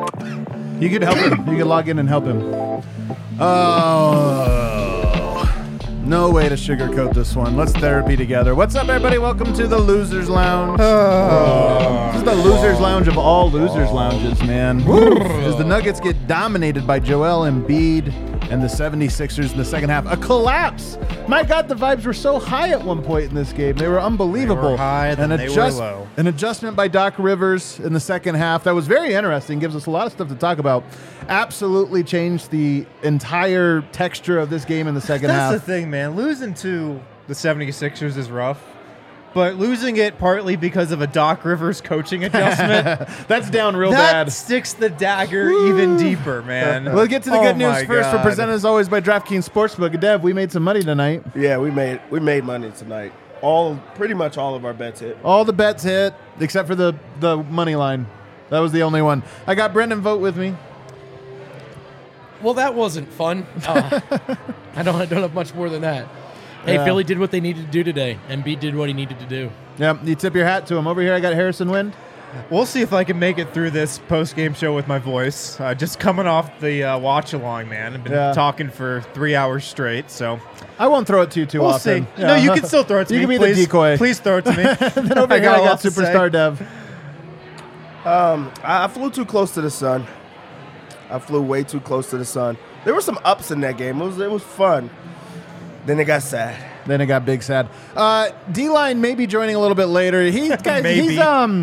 You could help him. You could log in and help him. Oh, no way to sugarcoat this one. Let's therapy together. What's up, everybody? Welcome to the Losers Lounge. This is the Losers Lounge of all Losers Lounges, man. As the Nuggets get dominated by Joel Embiid and the 76ers in the second half. A collapse. My God, the vibes were so high at one point in this game. They were unbelievable. They were high, then they were low. An adjustment by Doc Rivers in the second half. That was very interesting. Gives us a lot of stuff to talk about. Absolutely changed the entire texture of this game in the second half. That's the thing, man. Losing to the 76ers is rough. But losing it partly because of a Doc Rivers coaching adjustment. That's down real bad. That sticks the dagger even deeper, man. We'll get to the good news first. We're presented as always by DraftKings Sportsbook. Dev, we made some money tonight. Yeah, we made money tonight. Pretty much all of our bets hit. All the bets hit, except for the money line. That was the only one. I got Brendan Vogt with me. Well, that wasn't fun. I don't have much more than that. Hey, Philly did what they needed to do today. Embiid did what he needed to do. Yeah, you tip your hat to him. Over here, I got Harrison Wind. We'll see if I can make it through this post-game show with my voice. Just coming off the watch-along, man. I've been talking for 3 hours straight, so... I won't throw it to you too often. We'll see. Yeah. No, you can still throw it to me. You can be please, the decoy. Please throw it to me. Then over here, I got Superstar Dev. I flew too close to the sun. I flew way too close to the sun. There were some ups in that game. It was fun. Then it got sad. Then it got big sad. D-Line may be joining a little bit later. He's an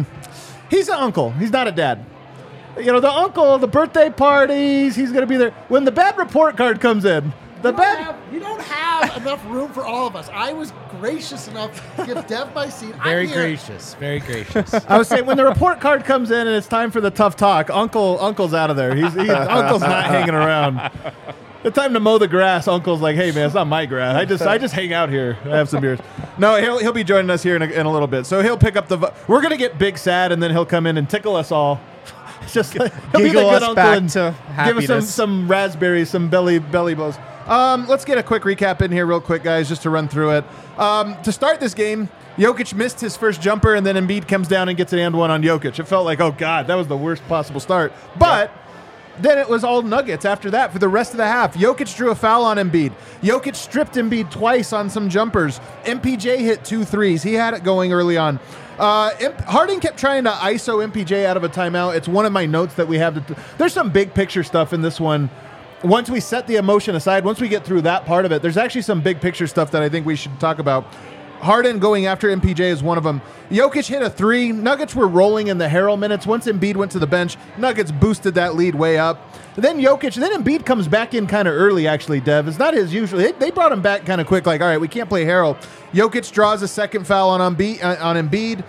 uncle. He's not a dad. You know, the uncle, the birthday parties, he's going to be there. When the bad report card comes in, you don't have enough room for all of us. I was gracious enough to give Dev my seat. Very gracious. I was saying when the report card comes in and it's time for the tough talk, Uncle's out of there. Uncle's not hanging around. The time to mow the grass, Uncle's like, "Hey man, it's not my grass. I just hang out here. I have some beers." No, he'll be joining us here in a little bit. So he'll pick up we're gonna get big sad, and then he'll come in and tickle us all. It's just like, he'll be the good uncle and give us some raspberries, some belly blows. Let's get a quick recap in here real quick, guys, just to run through it. To start this game, Jokic missed his first jumper, and then Embiid comes down and gets an and one on Jokic. It felt like, oh God, that was the worst possible start. But then it was all Nuggets after that for the rest of the half. Jokic drew a foul on Embiid. Jokic stripped Embiid twice on some jumpers. MPJ hit 2 threes. He had it going early on. Harden kept trying to ISO MPJ out of a timeout. It's one of my notes that we have. There's some big picture stuff in this one. Once we set the emotion aside, once we get through that part of it, there's actually some big picture stuff that I think we should talk about. Harden going after MPJ is one of them. Jokic hit a 3. Nuggets were rolling in the Harrell minutes. Once Embiid went to the bench, Nuggets boosted that lead way up. Then Embiid comes back in kind of early, actually, Dev. It's not his usual. They brought him back kind of quick, like, all right, we can't play Harrell. Jokic draws a second foul on Embiid.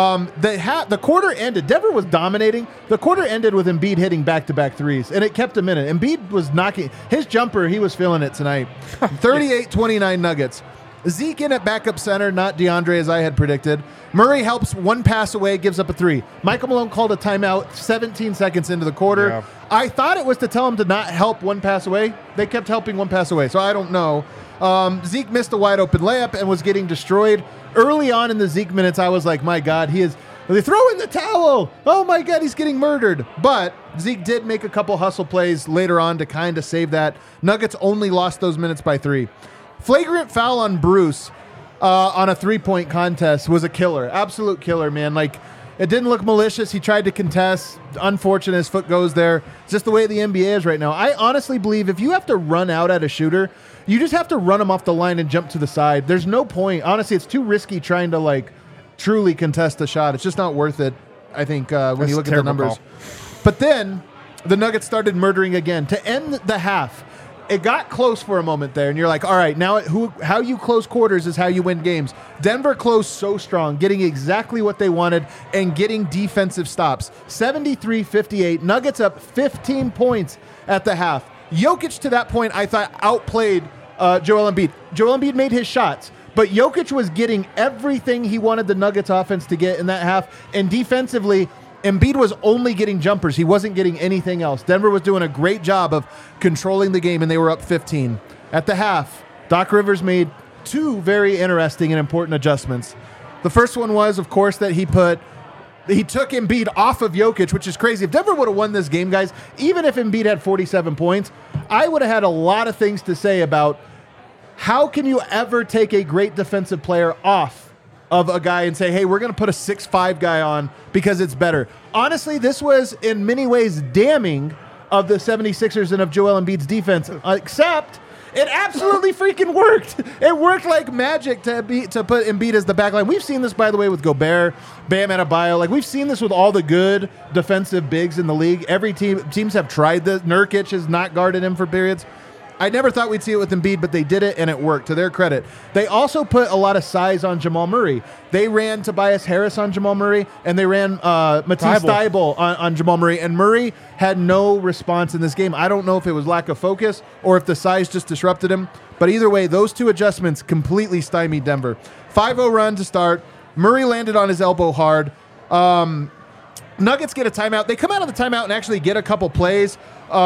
The quarter ended. Denver was dominating. The quarter ended with Embiid hitting back-to-back threes, and it kept him in it. Embiid was knocking. His jumper, he was feeling it tonight. 38-29 Nuggets. Zeke in at backup center, not DeAndre as I had predicted. Murray helps one pass away, gives up a 3. Michael Malone called a timeout 17 seconds into the quarter. Yeah. I thought it was to tell him to not help one pass away. They kept helping one pass away, so I don't know. Zeke missed a wide open layup and was getting destroyed. Early on in the Zeke minutes, I was like, my God, they throw in the towel. Oh my God, he's getting murdered. But Zeke did make a couple hustle plays later on to kind of save that. Nuggets only lost those minutes by 3. Flagrant foul on Bruce on a 3-point contest was a killer. Absolute killer, man. Like, it didn't look malicious. He tried to contest. Unfortunate, his foot goes there. It's just the way the NBA is right now. I honestly believe if you have to run out at a shooter, you just have to run him off the line and jump to the side. There's no point. Honestly, it's too risky trying to, like, truly contest the shot. It's just not worth it, I think, when you look at the numbers. But then the Nuggets started murdering again. To end the half, it got close for a moment there, and you're like, all right, now how you close quarters is how you win games. Denver closed so strong, getting exactly what they wanted and getting defensive stops. 73-58, Nuggets up 15 points at the half. Jokic, to that point, I thought outplayed Joel Embiid. Joel Embiid made his shots, but Jokic was getting everything he wanted the Nuggets offense to get in that half, and defensively, Embiid was only getting jumpers. He wasn't getting anything else. Denver was doing a great job of controlling the game, and they were up 15. At the half, Doc Rivers made 2 very interesting and important adjustments. The first one was, of course, that he put He took Embiid off of Jokic, which is crazy. If Denver would have won this game, guys, even if Embiid had 47 points, I would have had a lot of things to say about how can you ever take a great defensive player off of a guy and say, hey, we're going to put a 6'5 guy on because it's better. Honestly, this was in many ways damning of the 76ers and of Joel Embiid's defense, except it absolutely freaking worked. It worked like magic to put Embiid as the backline. We've seen this, by the way, with Gobert, Bam Adebayo. Like, we've seen this with all the good defensive bigs in the league. Every teams have tried this. Nurkic has not guarded him for periods. I never thought we'd see it with Embiid, but they did it, and it worked, to their credit. They also put a lot of size on Jamal Murray. They ran Tobias Harris on Jamal Murray, and they ran Matisse Thybulle on Jamal Murray, and Murray had no response in this game. I don't know if it was lack of focus or if the size just disrupted him, but either way, those two adjustments completely stymied Denver. 5-0 run to start. Murray landed on his elbow hard. Nuggets get a timeout. They come out of the timeout and actually get a couple plays.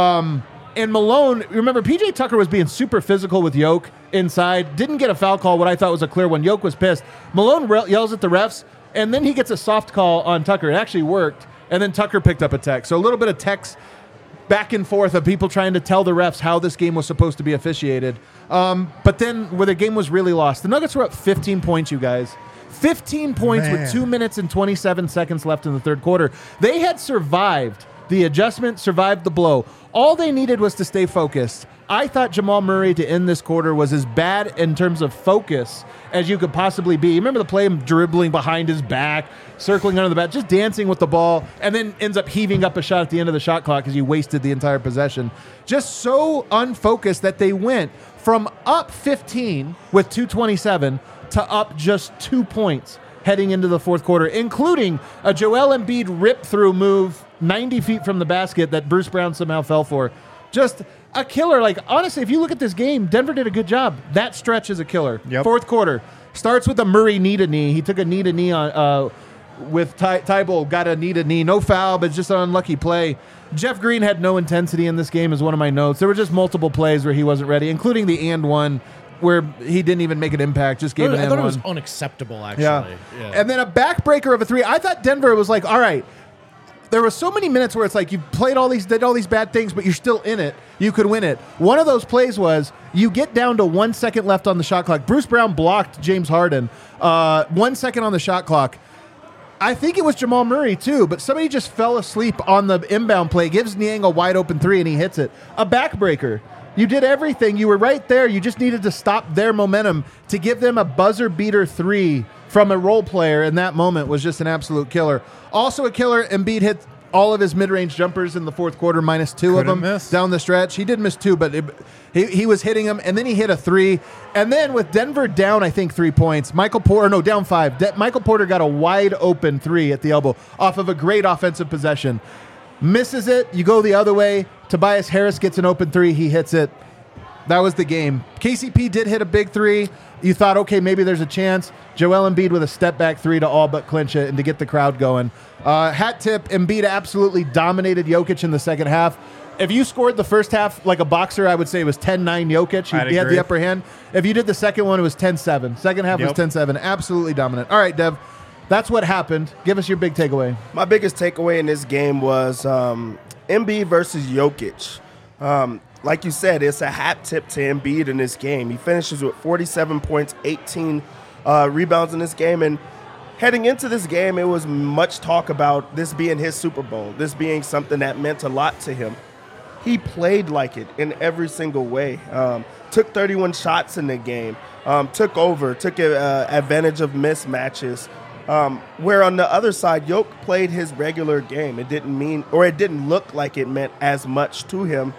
And Malone, remember, PJ Tucker was being super physical with Yoke inside. Didn't get a foul call, what I thought was a clear one. Yoke was pissed. Malone yells at the refs, and then he gets a soft call on Tucker. It actually worked. And then Tucker picked up a tech. So a little bit of text back and forth of people trying to tell the refs how this game was supposed to be officiated. But then where the game was really lost, the Nuggets were up 15 points, you guys. 15 points with 2 minutes and 27 seconds left in the third quarter. They had survived the adjustment, survived the blow. All they needed was to stay focused. I thought Jamal Murray to end this quarter was as bad in terms of focus as you could possibly be. You remember the play him dribbling behind his back, circling under the bat, just dancing with the ball, and then ends up heaving up a shot at the end of the shot clock because he wasted the entire possession. Just so unfocused that they went from up 15 with 2:27 to up just 2 points heading into the fourth quarter, including a Joel Embiid rip-through move 90 feet from the basket that Bruce Brown somehow fell for. Just a killer. Like, honestly, if you look at this game, Denver did a good job. That stretch is a killer. Yep. Fourth quarter starts with a Murray knee-to-knee. He took a knee-to-knee on with Thybulle, got a knee-to-knee. No foul, but just an unlucky play. Jeff Green had no intensity in this game is one of my notes. There were just multiple plays where he wasn't ready, including the and one where he didn't even make an impact, just gave an and one. I thought it was unacceptable, actually. Yeah. And then a backbreaker of a three. I thought Denver was like, all right, there were so many minutes where it's like you did all these bad things, but you're still in it. You could win it. One of those plays was you get down to 1 second left on the shot clock. Bruce Brown blocked James Harden. 1 second on the shot clock. I think it was Jamal Murray too, but somebody just fell asleep on the inbound play, gives Niang a wide open three, and he hits it. A backbreaker. You did everything. You were right there. You just needed to stop their momentum to give them a buzzer beater three from a role player, and that moment was just an absolute killer. Also a killer, Embiid hit all of his mid-range jumpers in the fourth quarter, minus two of them down the stretch. He did miss two, but he was hitting them, and then he hit a three. And then with Denver down, I think, 3 points, down five. Michael Porter got a wide open three at the elbow off of a great offensive possession. Misses it. You go the other way. Tobias Harris gets an open three. He hits it. That was the game. KCP did hit a big three. You thought, okay, maybe there's a chance. Joel Embiid with a step-back three to all but clinch it and to get the crowd going. Hat tip, Embiid absolutely dominated Jokic in the second half. If you scored the first half like a boxer, I would say it was 10-9 Jokic. He had the upper hand. If you did the second one, it was 10-7. Second half was 10-7. Absolutely dominant. All right, Dev. That's what happened. Give us your big takeaway. My biggest takeaway in this game was Embiid versus Jokic. Like you said, it's a hat tip to Embiid in this game. He finishes with 47 points, 18 rebounds in this game. And heading into this game, it was much talk about this being his Super Bowl, this being something that meant a lot to him. He played like it in every single way. Took 31 shots in the game. Took advantage of mismatches. Where on the other side, Yoke played his regular game. It didn't look like it meant as much to him.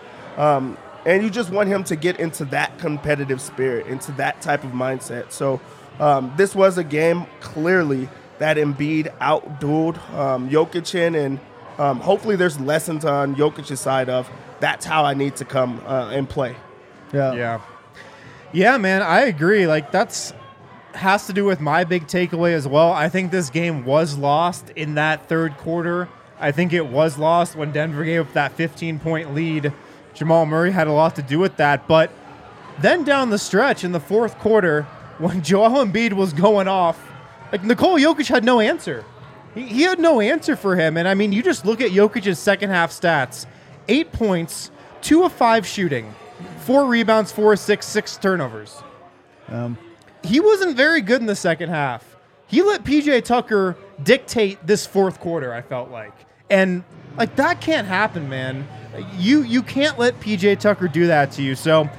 And you just want him to get into that competitive spirit, into that type of mindset. So this was a game clearly that Embiid outdueled Jokic in, and hopefully there's lessons on Jokic's side of that's how I need to come and play. Yeah, man, I agree. Like has to do with my big takeaway as well. I think this game was lost in that third quarter. I think it was lost when Denver gave up that 15-point lead. Jamal Murray had a lot to do with that. But then down the stretch in the fourth quarter, when Joel Embiid was going off, like Nikola Jokic had no answer. He had no answer for him. And I mean, you just look at Jokic's second half stats: 8 points, 2 of 5 shooting, 4 rebounds, 4 assists, 6 turnovers. He wasn't very good in the second half. He let PJ Tucker dictate this fourth quarter, I felt like. And like that can't happen, man. You can't let PJ Tucker do that to you. So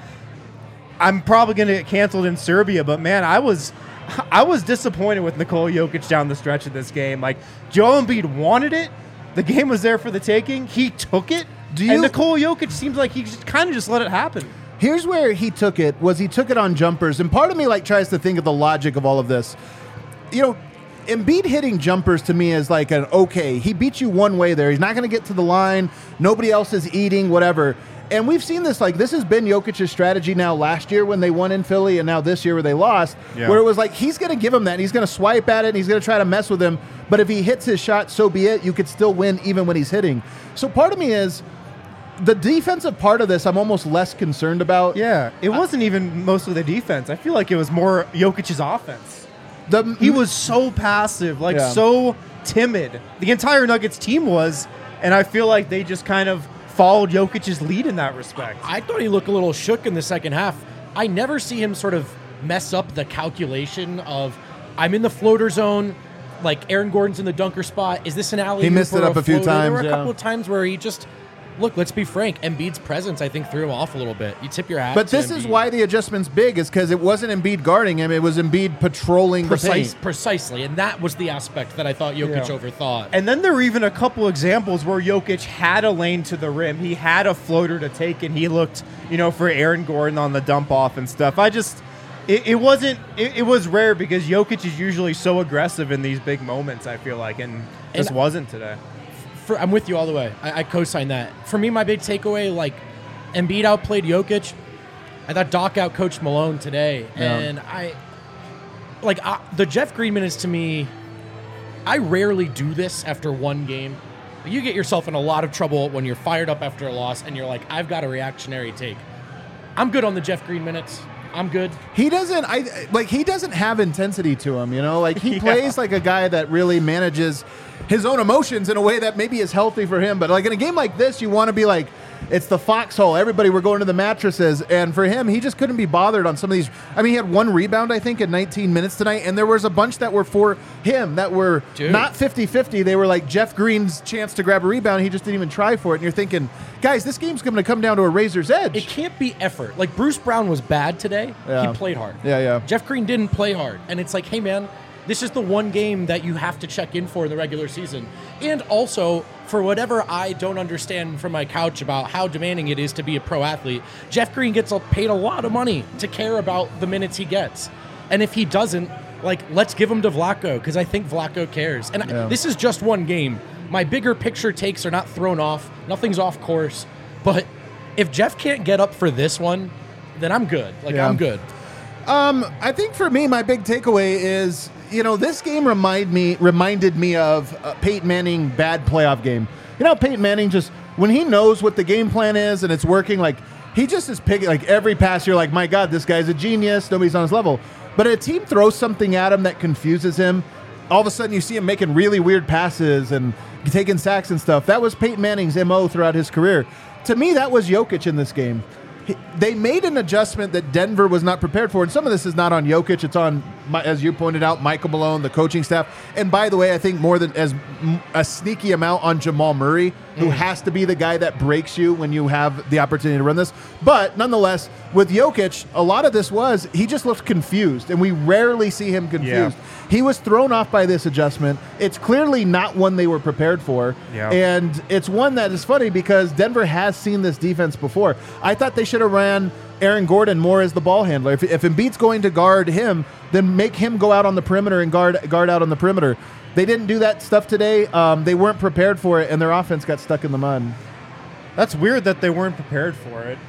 I'm probably going to get canceled in Serbia, but man, I was disappointed with Nikola Jokic down the stretch of this game. Like, Joel Embiid wanted it. The game was there for the taking. He took it. And Nikola Jokic seems like he kind of just let it happen. Here's where he took it on jumpers. And part of me like tries to think of the logic of all of this. You know, Embiid hitting jumpers to me is like he beat you one way there. He's not going to get to the line. Nobody else is eating, whatever. And we've seen this, like, this has been Jokic's strategy now last year when they won in Philly and now this year where they lost, where it was like he's going to give him that and he's going to swipe at it and he's going to try to mess with him. But if he hits his shot, so be it. You could still win even when he's hitting. So part of me is the defensive part of this I'm almost less concerned about. Yeah, it wasn't even mostly the defense. I feel like it was more Jokic's offense. He was so passive, so timid. The entire Nuggets team was, and I feel like they just kind of followed Jokic's lead in that respect. I thought he looked a little shook in the second half. I never see him sort of mess up the calculation of, I'm in the floater zone, like Aaron Gordon's in the dunker spot. Is this an alley? He missed it up a few times. There were a couple of times where he just... Look, let's be frank. Embiid's presence, I think, threw him off a little bit. You tip your hat. But this is why the adjustment's big, is because it wasn't Embiid guarding him; it was Embiid patrolling the paint. Precisely, and that was the aspect that I thought Jokic overthought. And then there were even a couple examples where Jokic had a lane to the rim, he had a floater to take, and he looked, for Aaron Gordon on the dump off and stuff. It was rare because Jokic is usually so aggressive in these big moments. I feel like, and this wasn't today. I'm with you all the way. I co-sign that. For me, my big takeaway, like, Embiid outplayed Jokic. I thought Doc outcoached Malone today. And the Jeff Green minutes to me, I rarely do this after one game. You get yourself in a lot of trouble when you're fired up after a loss and you're like, I've got a reactionary take. I'm good on the Jeff Green minutes. I'm good. He doesn't have intensity to him, Like, he plays like a guy that really manages his own emotions in a way that maybe is healthy for him. But like in a game like this, you want to be like, it's the foxhole. Everybody, we're going to the mattresses. And for him, he just couldn't be bothered on some of these. I mean, he had 1 rebound, I think, in 19 minutes tonight. And there was a bunch that were for him that were not 50-50. They were like Jeff Green's chance to grab a rebound. He just didn't even try for it. And you're thinking, guys, this game's going to come down to a razor's edge. It can't be effort. Like, Bruce Brown was bad today. Yeah. He played hard. Yeah. Jeff Green didn't play hard. And it's like, hey, man, this is the one game that you have to check in for in the regular season. And also, for whatever I don't understand from my couch about how demanding it is to be a pro athlete, Jeff Green gets paid a lot of money to care about the minutes he gets. And if he doesn't, like, let's give him to Vlatko, because I think Vlatko cares. And this is just one game. My bigger picture takes are not thrown off. Nothing's off course. But if Jeff can't get up for this one, then I'm good. I'm good. I think for me, my big takeaway is, this game reminded me of Peyton Manning bad playoff game. Peyton Manning just, when he knows what the game plan is and it's working, like, he just is picking, like, every pass, you're like, my God, this guy's a genius. Nobody's on his level. But a team throws something at him that confuses him. All of a sudden, you see him making really weird passes and taking sacks and stuff. That was Peyton Manning's MO throughout his career. To me, that was Jokic in this game. They made an adjustment that Denver was not prepared for, and some of this is not on Jokic. It's on, as you pointed out, Michael Malone, the coaching staff, and by the way, I think more than as a sneaky amount on Jamal Murray, who has to be the guy that breaks you when you have the opportunity to run this. But nonetheless, with Jokic, a lot of this was he just looked confused, and we rarely see him confused. Yeah. He was thrown off by this adjustment. It's clearly not one they were prepared for, and it's one that is funny because Denver has seen this defense before. I thought they should have ran Aaron Gordon more as the ball handler. If Embiid's going to guard him, then make him go out on the perimeter and guard out on the perimeter. They didn't do that stuff today. They weren't prepared for it, and their offense got stuck in the mud. That's weird that they weren't prepared for it.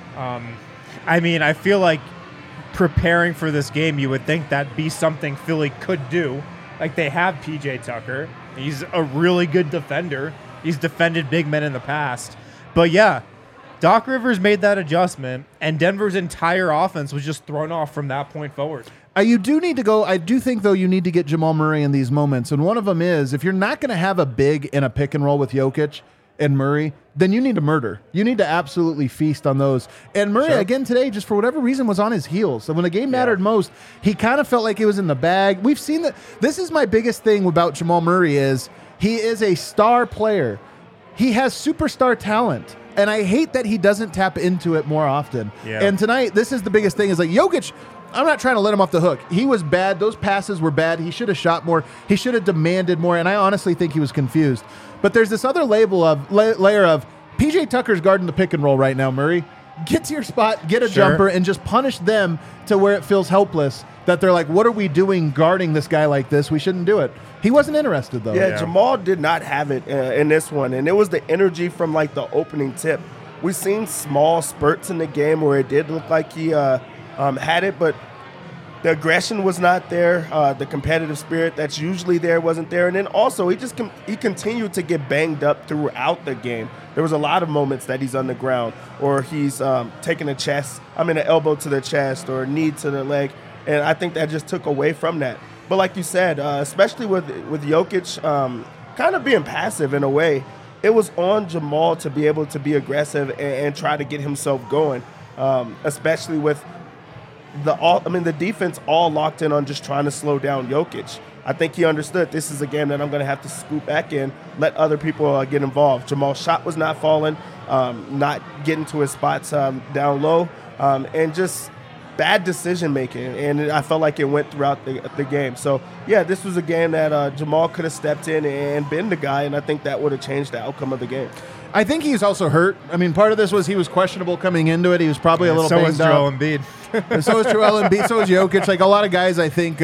I mean, I feel like preparing for this game, you would think that'd be something Philly could do. Like, they have PJ Tucker. He's a really good defender. He's defended big men in the past. But yeah, Doc Rivers made that adjustment, and Denver's entire offense was just thrown off from that point forward. You do need to go. I do think, though, you need to get Jamal Murray in these moments. And one of them is, if you're not going to have a big in a pick and roll with Jokic and Murray, then you need to murder. You need to absolutely feast on those. And Murray, again today, just for whatever reason, was on his heels. So when the game mattered most, he kind of felt like he was in the bag. We've seen that. This is my biggest thing about Jamal Murray is he is a star player. He has superstar talent. And I hate that he doesn't tap into it more often. Yeah. And tonight, this is the biggest thing is like Jokic, I'm not trying to let him off the hook. He was bad. Those passes were bad. He should have shot more. He should have demanded more. And I honestly think he was confused. But there's this other layer of PJ Tucker's guarding the pick and roll right now, Murray. Get to your spot, get a jumper, and just punish them to where it feels helpless. That they're like, what are we doing guarding this guy like this? We shouldn't do it. He wasn't interested, though. Yeah, Jamal did not have it in this one. And it was the energy from, like, the opening tip. We've seen small spurts in the game where it did look like he had it, but the aggression was not there. The competitive spirit that's usually there wasn't there. And then also, he continued to get banged up throughout the game. There was a lot of moments that he's on the ground or he's taking an elbow to the chest or a knee to the leg. And I think that just took away from that. But like you said, especially with Jokic kind of being passive in a way, it was on Jamal to be able to be aggressive and try to get himself going, especially with the defense all locked in on just trying to slow down Jokic. I think he understood this is a game that I'm going to have to scoop back in, let other people get involved. Jamal's shot was not falling, not getting to his spots down low, and just bad decision making, and I felt like it went throughout the game. So yeah, this was a game that Jamal could have stepped in and been the guy, and I think that would have changed the outcome of the game. I think he's also hurt. I mean, part of this was he was questionable coming into it. He was probably a little banged up. So was Joel Embiid. And so is Joel Embiid. So is Jokic. Like a lot of guys, I think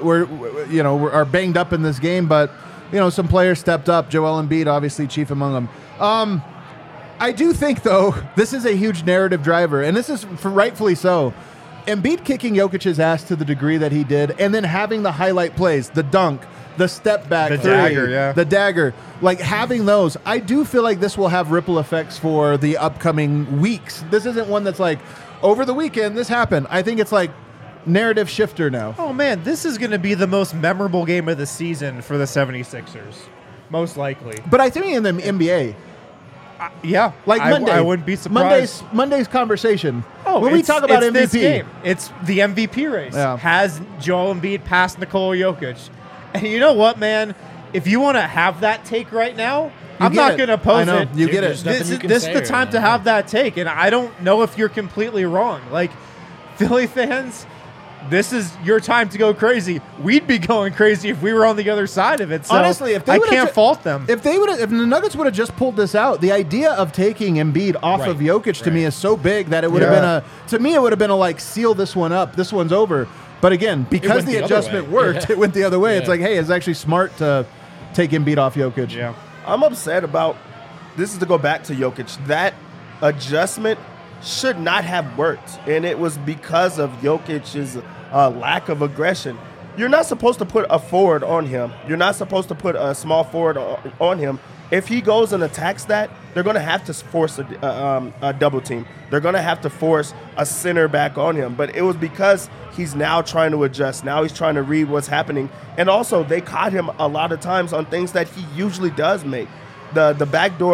are banged up in this game, but some players stepped up. Joel Embiid, obviously, chief among them. I do think, though, this is a huge narrative driver, and this is rightfully so. Embiid kicking Jokic's ass to the degree that he did, and then having the highlight plays, the dunk, the step back, the dagger, the dagger, like having those, I do feel like this will have ripple effects for the upcoming weeks. This isn't one that's like, over the weekend, this happened. I think it's like narrative shifter now. Oh, man, this is going to be the most memorable game of the season for the 76ers, most likely. But I think in the NBA... yeah, like Monday, I wouldn't be surprised. Monday's conversation. Oh, when we talk about MVP, this game, it's the MVP race. Yeah. Has Joel Embiid passed Nikola Jokic? And you know what, man? If you want to have that take right now, I'm not going to oppose it. You get it. This is the time to have that take, and I don't know if you're completely wrong. Like Philly fans, this is your time to go crazy. We'd be going crazy if we were on the other side of it. So honestly, if they I can't fault them. If the Nuggets would have just pulled this out, the idea of taking Embiid off of Jokic to me is so big that it would have been it would have been like seal this one up. This one's over. But again, because the adjustment worked, it went the other way. Yeah. It's like, hey, it's actually smart to take Embiid off Jokic. Yeah. I'm upset about this is to go back to Jokic. That adjustment should not have worked, and it was because of Jokic's lack of aggression. You're not supposed to put a forward on him. You're not supposed to put a small forward on him. If he goes and attacks that, they're going to have to force a double team. They're going to have to force a center back on him. But it was because he's now trying to adjust. Now he's trying to read what's happening. And also, they caught him a lot of times on things that he usually does make. The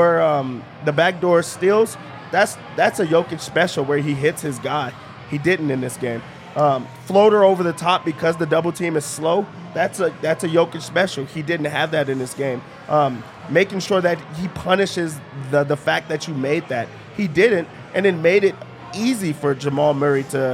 backdoor steals. That's a Jokic special where he hits his guy. He didn't in this game. Floater over the top because the double team is slow. That's a Jokic special. He didn't have that in this game. Making sure that he punishes the fact that you made that. He didn't, and it made it easy for Jamal Murray to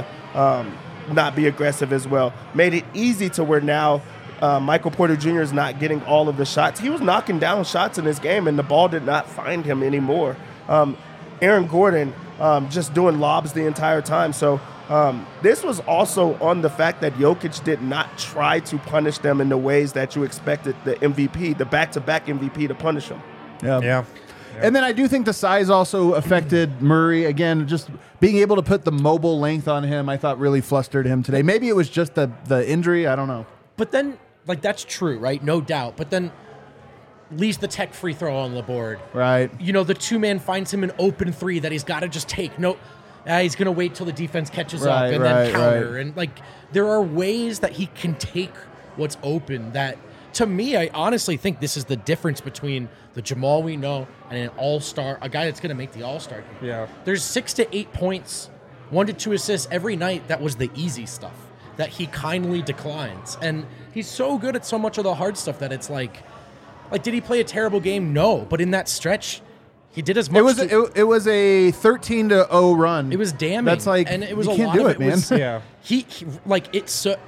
not be aggressive as well. Made it easy to where now Michael Porter Jr. is not getting all of the shots. He was knocking down shots in this game, and the ball did not find him anymore. Aaron Gordon just doing lobs the entire time. So this was also on the fact that Jokic did not try to punish them in the ways that you expected the MVP, the back-to-back MVP, to punish them. Yeah. And then I do think the size also affected Murray. Again, just being able to put the mobile length on him, I thought really flustered him today. Maybe it was just the injury. I don't know. But then, like, that's true, right? No doubt. But then leaves the tech free throw on the board. Right. The two-man finds him an open three that he's got to just take. No, He's going to wait till the defense catches up Right, and right, then counter. right. And, like, there are ways that he can take what's open that, to me, I honestly think this is the difference between the Jamal we know and an all-star, a guy that's going to make the all-star game. Yeah. There's 6 to 8 points, 1 to 2 assists every night. That was the easy stuff that he kindly declines. And he's so good at so much of the hard stuff that it's like, did he play a terrible game? No. But in that stretch, he did as much. It was a 13-0 run. It was damning. That's like, and it was you a can't lot do of it, man. Was, Yeah. he like it's so,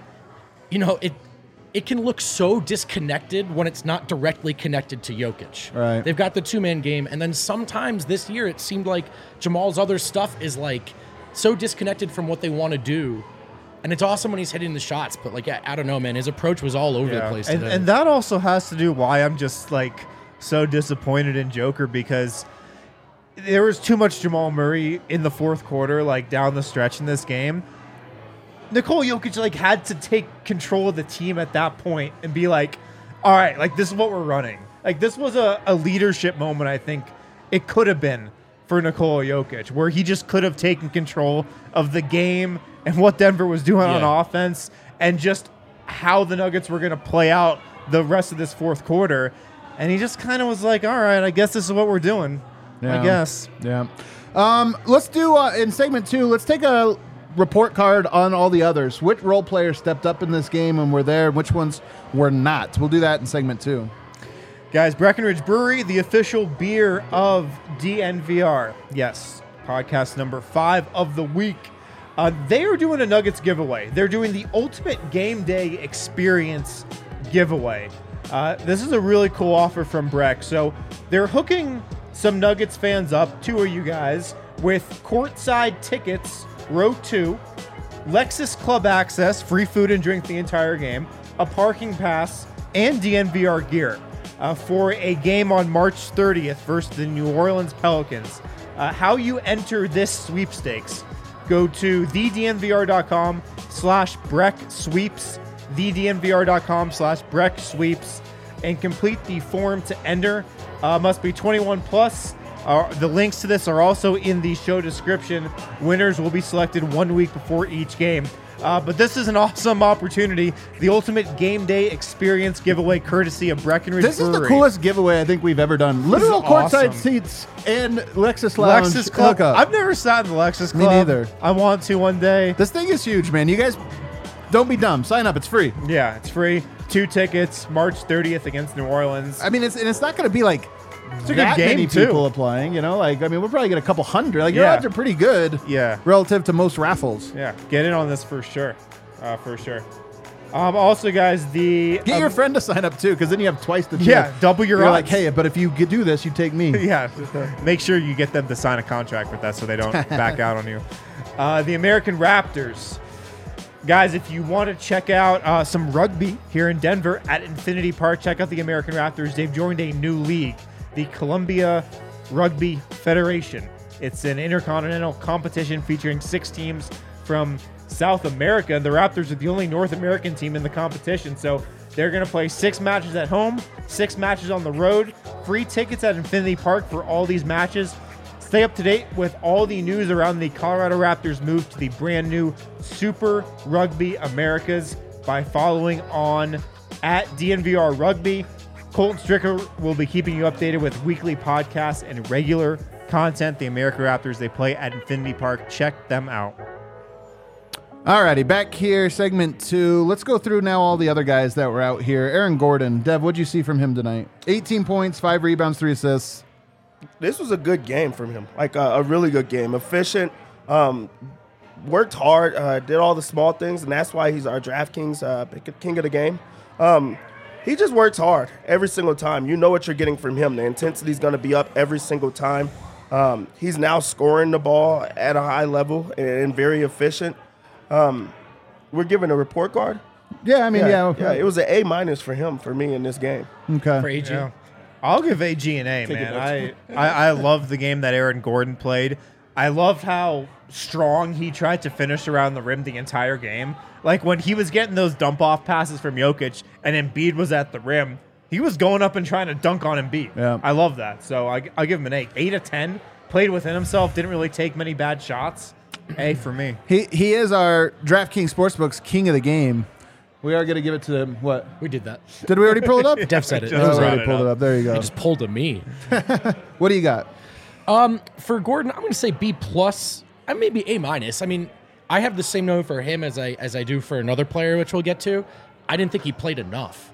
it can look so disconnected when it's not directly connected to Jokic. Right. They've got the 2-man game, and then sometimes this year it seemed like Jamal's other stuff is like so disconnected from what they want to do. And it's awesome when he's hitting the shots, but like I don't know, man, his approach was all over the place today. And that also has to do why I'm just like so disappointed in Joker, because there was too much Jamal Murray in the fourth quarter, like down the stretch in this game. Nikola Jokic like had to take control of the team at that point and be like, all right, like this is what we're running. Like this was a leadership moment, I think it could have been for Nikola Jokic, where he just could have taken control of the game and what Denver was doing on offense and just how the Nuggets were going to play out the rest of this fourth quarter. And he just kind of was like, all right, I guess this is what we're doing. Yeah. I guess. Yeah. Let's do, in segment 2, let's take a report card on all the others. Which role players stepped up in this game and were there, which ones were not? We'll do that in segment 2. Guys, Breckenridge Brewery, the official beer of DNVR. Yes, podcast number 5 of the week. They are doing a Nuggets giveaway. They're doing the Ultimate Game Day Experience giveaway. This is a really cool offer from Breck. So they're hooking some Nuggets fans up, 2 of you guys, with courtside tickets, row 2, Lexus Club access, free food and drink the entire game, a parking pass, and DNVR gear for a game on March 30th versus the New Orleans Pelicans. How you enter this sweepstakes? Go to thednvr.com/BreckSweeps, thednvr.com/BreckSweeps, and complete the form to enter. Must be 21 plus. The links to this are also in the show description. Winners will be selected 1 week before each game. But this is an awesome opportunity. The Ultimate Game Day Experience giveaway courtesy of Breckenridge This Brewery. is the coolest giveaway I think we've ever done. Literal courtside awesome. seats and Lexus Lounge Lexus Club. hookup. I've never sat in the Lexus Me Club. neither. I want to one day. This thing is huge, man. You guys don't be dumb. Sign up. It's free. Yeah, it's free. 2 tickets, March 30th against New Orleans. I mean, it's not going to be like It's a that good game, many too. people applying. You know, like I mean, we'll probably get a couple hundred. Like your Yeah. odds are pretty good. Yeah. Relative to most raffles. Yeah, get in on this for sure. For sure. Also, guys, the Get your friend to sign up too, because then you have twice the. Yeah, double your You're odds. like, hey, but if you do this, you take me. yeah, make sure you get them to sign a contract with that so they don't back out on you. The American Raptors. Guys, if you want to check out some rugby here in Denver at Infinity Park, check out the American Raptors. They've joined a new league, the Columbia Rugby Federation. It's an intercontinental competition featuring 6 teams from South America. The Raptors are the only North American team in the competition, so they're going to play 6 matches at home, 6 matches on the road. Free tickets at Infinity Park for all these matches. Stay up to date with all the news around the Colorado Raptors move to the brand new Super Rugby Americas by following on at DNVR Rugby. Colton Stricker will be keeping you updated with weekly podcasts and regular content. The American Raptors, they play at Infinity Park. Check them out. Alrighty, back here, segment 2. Let's go through now all the other guys that were out here. Aaron Gordon. Dev, what'd you see from him tonight? 18 points, 5 rebounds, 3 assists. This was a good game from him, like a really good game. Efficient, worked hard, did all the small things, and that's why he's our DraftKings king of the game. He just works hard every single time. You know what you're getting from him. The intensity's going to be up every single time. He's now scoring the ball at a high level and very efficient. We're giving a report card. Yeah, I mean, yeah. It was an A- for him, for me in this game. Okay. For AG. Yeah. I'll give AG an A, man. I love the game that Aaron Gordon played. I loved how strong he tried to finish around the rim the entire game. Like when he was getting those dump-off passes from Jokic and Embiid was at the rim, he was going up and trying to dunk on Embiid. Yeah. I love that. So I'll give him an 8. 8 of 10. Played within himself. Didn't really take many bad shots. A for me. He is our DraftKings Sportsbook's king of the game. We are going to give it to him. What? We did that. Did we already pull it up? Dev said it. Just Oh, we brought already it pulled up. it up. There you go. He just pulled a me. What do you got? For Gordon, I'm going to say B plus. Maybe A minus. I mean, I have the same note for him as I do for another player, which we'll get to. I didn't think he played enough.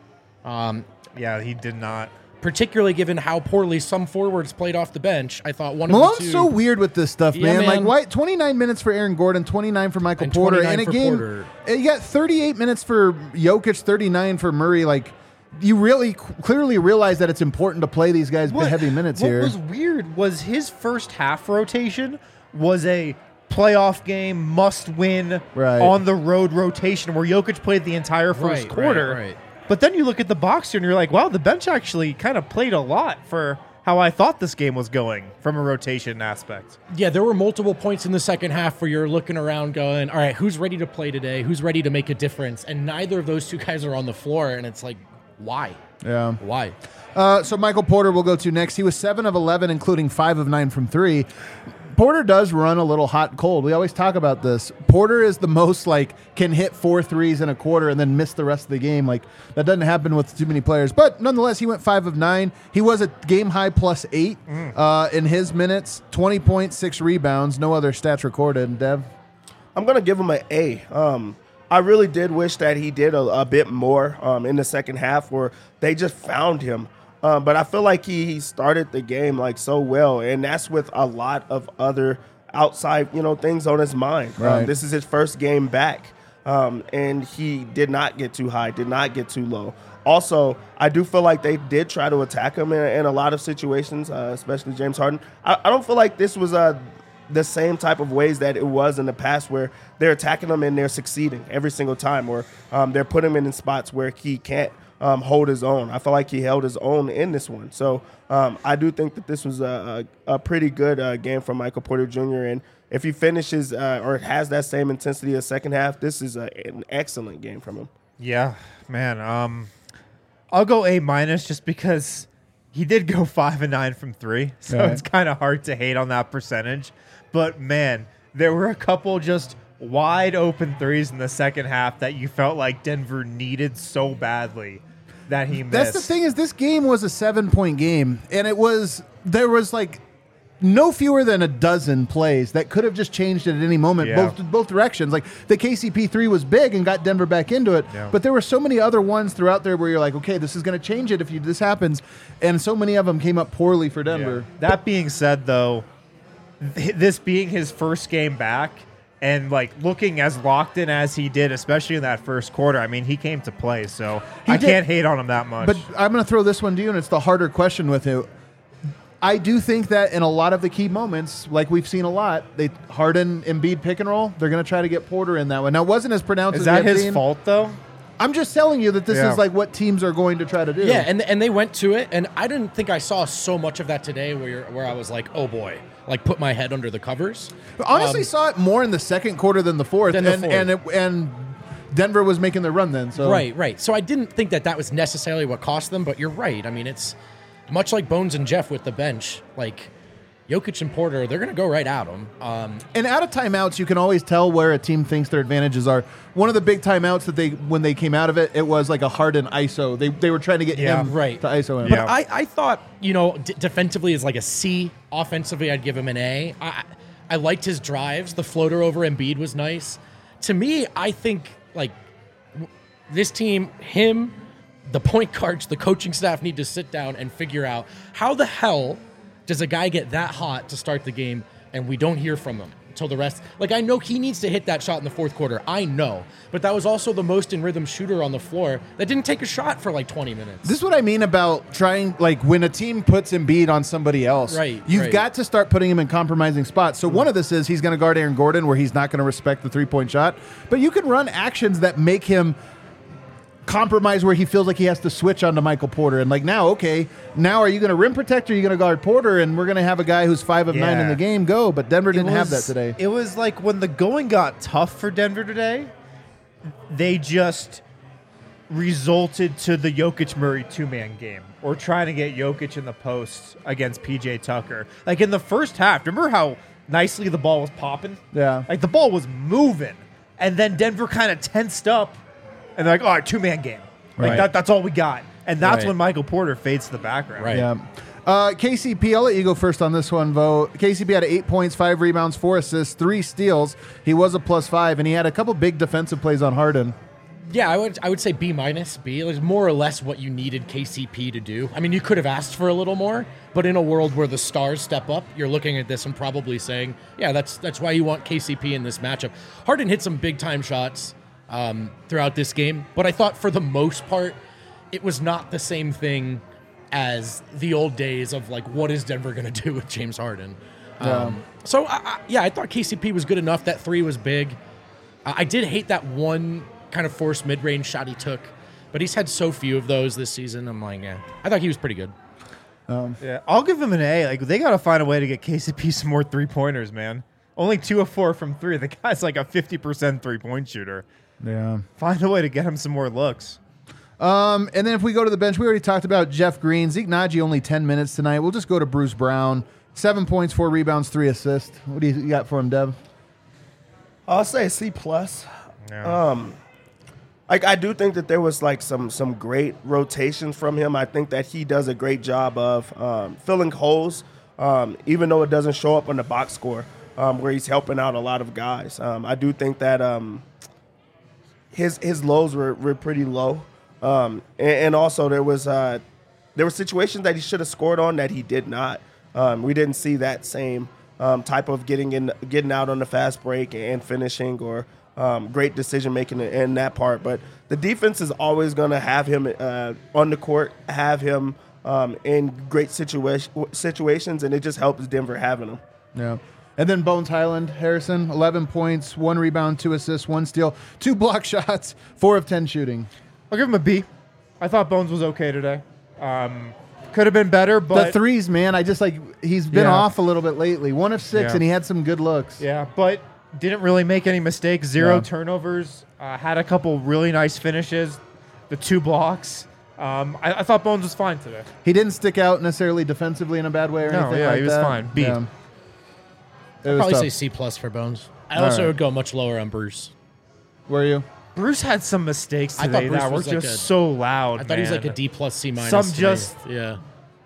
Yeah, he did not. Particularly given how poorly some forwards played off the bench. I thought one of Malone's the two. so weird with this stuff, Yeah, man. Like, man. why 29 minutes for Aaron Gordon, 29 for Michael And Porter, 29 in a for game. Porter. You got 38 minutes for Jokic, 39 for Murray. Like, you really clearly realize that it's important to play these guys heavy minutes what here. was weird was his first half rotation was a playoff game, must win, Right. on the road rotation where Jokic played the entire first Right, quarter. right. But then you look at the box here and you're like, wow, the bench actually kind of played a lot for how I thought this game was going from a rotation aspect. Yeah, there were multiple points in the second half where you're looking around going, all right, who's ready to play today? Who's ready to make a difference? And neither of those two guys are on the floor. And it's like, why? Yeah. Why? So Michael Porter will go to next. He was 7 of 11, including 5 of 9 from 3. Porter does run a little hot and cold. We always talk about this. Porter is the most can hit 4 threes in a quarter and then miss the rest of the game. Like, that doesn't happen with too many players. But nonetheless, he went 5 of 9. He was a game high plus 8 in his minutes. 20 points, 6 rebounds. No other stats recorded. Dev? I'm going to give him an A. I really did wish that he did a bit more in the second half, or they just found him. But I feel like he started the game so well, and that's with a lot of other outside things on his mind. Right. This is his first game back, and he did not get too high, did not get too low. Also, I do feel like they did try to attack him in a lot of situations, especially James Harden. I don't feel like this was the same type of ways that it was in the past, where they're attacking him and they're succeeding every single time, or they're putting him in spots where he can't hold his own. I feel like he held his own in this one. So I do think that this was a pretty good game from Michael Porter Jr. And if he finishes or has that same intensity as second half, this is an excellent game from him. Yeah, man. I'll go A minus just because he did go 5 of 9 from 3. So Right. it's kind of hard to hate on that percentage. But man, there were a couple just wide open threes in the second half that you felt like Denver needed so badly that he missed. That's the thing is this game was a 7-point game, and there was no fewer than a dozen plays that could have just changed it at any moment, Yeah. both directions. Like the KCP 3 was big and got Denver back into it, Yeah. but there were so many other ones throughout there where you're like, okay, this is going to change it if this happens, and so many of them came up poorly for Denver. Yeah. That being said, though, this being his first game back and looking as locked in as he did, especially in that first quarter, I mean, he came to play, so I did. can't hate on him that much. But I'm going to throw this one to you, and it's the harder question with you. I do think that in a lot of the key moments, like we've seen a lot, they Harden, Embiid pick and roll. They're going to try to get Porter in that one. Now, it wasn't as pronounced is as that we have his seen. fault, though? I'm just telling you that this Yeah. is what teams are going to try to do. Yeah, and they went to it, and I didn't think I saw so much of that today where I was like, oh boy, put my head under the covers. Honestly, saw it more in the second quarter than the fourth, Than the fourth. and Denver was making their run then. So Right. So I didn't think that was necessarily what cost them, but you're right. I mean, it's much like Bones and Jeff with the bench. Jokic and Porter, they're going to go right at them. And out of timeouts, you can always tell where a team thinks their advantages are. One of the big timeouts that when they came out of it, it was like a Harden ISO. They were trying to get Yeah, him right. to ISO him. Yeah. I thought, defensively is a C. Offensively, I'd give him an A. I liked his drives. The floater over Embiid was nice. To me, I think, this team, him, the point guards, the coaching staff need to sit down and figure out how the hell does a guy get that hot to start the game and we don't hear from him until the rest. I know he needs to hit that shot in the fourth quarter. I know. But that was also the most in rhythm shooter on the floor that didn't take a shot for 20 minutes. This is what I mean about trying, when a team puts Embiid on somebody else, Right, you've right. got to start putting him in compromising spots. So one of this is he's going to guard Aaron Gordon where he's not going to respect the three-point shot. But you can run actions that make him compromise where he feels like he has to switch onto Michael Porter. And now are you going to rim protect or are you going to guard Porter? And we're going to have a guy who's 5 of 9 in the game go. But Denver didn't have that today. It was when the going got tough for Denver today, they just resulted to the Jokic-Murray two-man game or trying to get Jokic in the post against P.J. Tucker. In the first half, remember how nicely the ball was popping. Yeah. Like the ball was moving, and then Denver kind of tensed up, and they're like, all right, 2-man game. Like Right. that's all we got. And that's Right. when Michael Porter fades to the background. Right. Yeah. KCP, I'll let you go first on this one, Vo. KCP had 8 points, 5 rebounds, 4 assists, 3 steals. He was a +5, and he had a couple big defensive plays on Harden. Yeah, I would say B-. B. It was more or less what you needed KCP to do. I mean, you could have asked for a little more, but in a world where the stars step up, you're looking at this and probably saying, yeah, that's why you want KCP in this matchup. Harden hit some big-time shots throughout this game, but I thought for the most part, it was not the same thing as the old days of, like, what is Denver going to do with James Harden? So, I thought KCP was good enough. That 3 was big. I did hate that one kind of forced mid-range shot he took, but he's had so few of those this season. I'm like, yeah, I thought he was pretty good. Yeah, I'll give him an A. Like they got to find a way to get KCP some more 3-pointers, man. Only 2 of 4 from 3. The guy's like a 50% 3-point shooter. Yeah. Find a way to get him some more looks. And then if we go to the bench, we already talked about Jeff Green. Zeke Naji only 10 minutes tonight. We'll just go to Bruce Brown. 7 points, 4 rebounds, 3 assists. What do you got for him, Dev? I'll say C+. Yeah. I do think that there was like some great rotations from him. I think that he does a great job of filling holes, even though it doesn't show up on the box score, where he's helping out a lot of guys. I do think that his lows were pretty low, and also there were situations that he should have scored on that he did not. We didn't see that same type of getting out on the fast break and finishing or great decision making in that part. But the defense is always going to have him on the court, have him in great situations, and it just helps Denver having him. Yeah. And then Bones Highland, Harrison, 11 points, 1 rebound, 2 assists, 1 steal, 2 block shots, 4 of 10 shooting. I'll give him a B. I thought Bones was okay today. Could have been better, but The threes, man, he's been Yeah. off a little bit lately. 1 of 6, Yeah. and he had some good looks. yeah, but didn't really make any mistakes. 0 No. turnovers. Had a couple really nice finishes. The 2 blocks. I thought Bones was fine today. He didn't stick out necessarily defensively in a bad way or No, anything yeah, like he was that. fine. B. Yeah. It I'd was probably tough. say C+ for Bones. I All also right. would go much lower on Bruce. Were you? Bruce had some mistakes I thought today Bruce that were was like just a- so loud. I thought he was like a man. D+, C-. Some to me. just- yeah.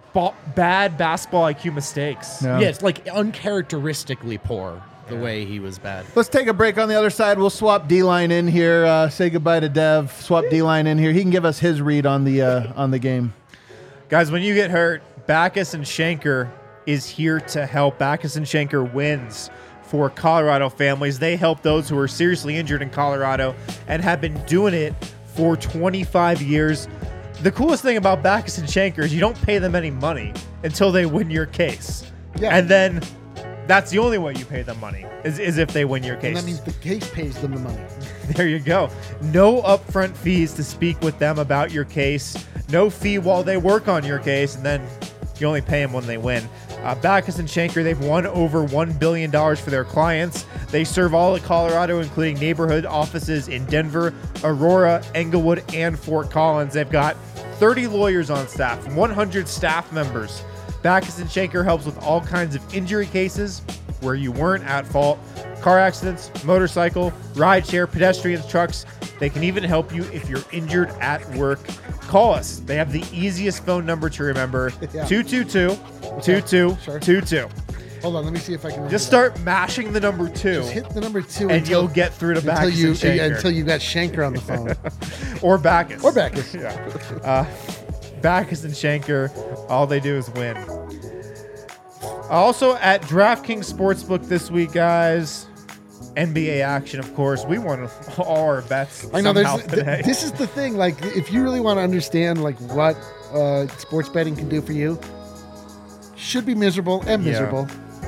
Bad basketball IQ mistakes. Yeah. Yeah, it's like uncharacteristically poor the way he was bad. Let's take a break on the other side. We'll swap D-line in here. Say goodbye to Dev. Swap D-line in here. He can give us his read on the game. Guys, when you get hurt, Backus and Schenker is here to help. Backus and Schenker wins for Colorado families. They help those who are seriously injured in Colorado and have been doing it for 25 years. The coolest thing about Backus and Schenker is you don't pay them any money until they win your case. Yeah. And then that's the only way you pay them money is if they win your case. And that means the case pays them the money. There you go. No upfront fees to speak with them about your case. No fee while they work on your case, and then you only pay them when they win. Backus and Schenker, they've won over $1 billion for their clients. They serve all of Colorado, including neighborhood offices in Denver, Aurora, Englewood, and Fort Collins. They've got 30 lawyers on staff, 100 staff members. Backus and Schenker helps with all kinds of injury cases where you weren't at fault. Car accidents, motorcycle, rideshare, pedestrians, trucks. They can even help you if you're injured at work. Call us. They have the easiest phone number to remember, Yeah. 222-2222. Hold on, let me see if I can. Just remember start mashing the number 2, that. Just hit the number 2 and you'll get through to Backus and Schenker. until you got Schenker on the phone Or Backus. or Backus. Yeah. Backus and Schenker, all they do is win. Also at DraftKings Sportsbook this week, guys, NBA action, of course. We won all our bets I know. somehow today. This is the thing. Like, if you really want to understand like what sports betting can do for you, should be miserable and Yeah. miserable.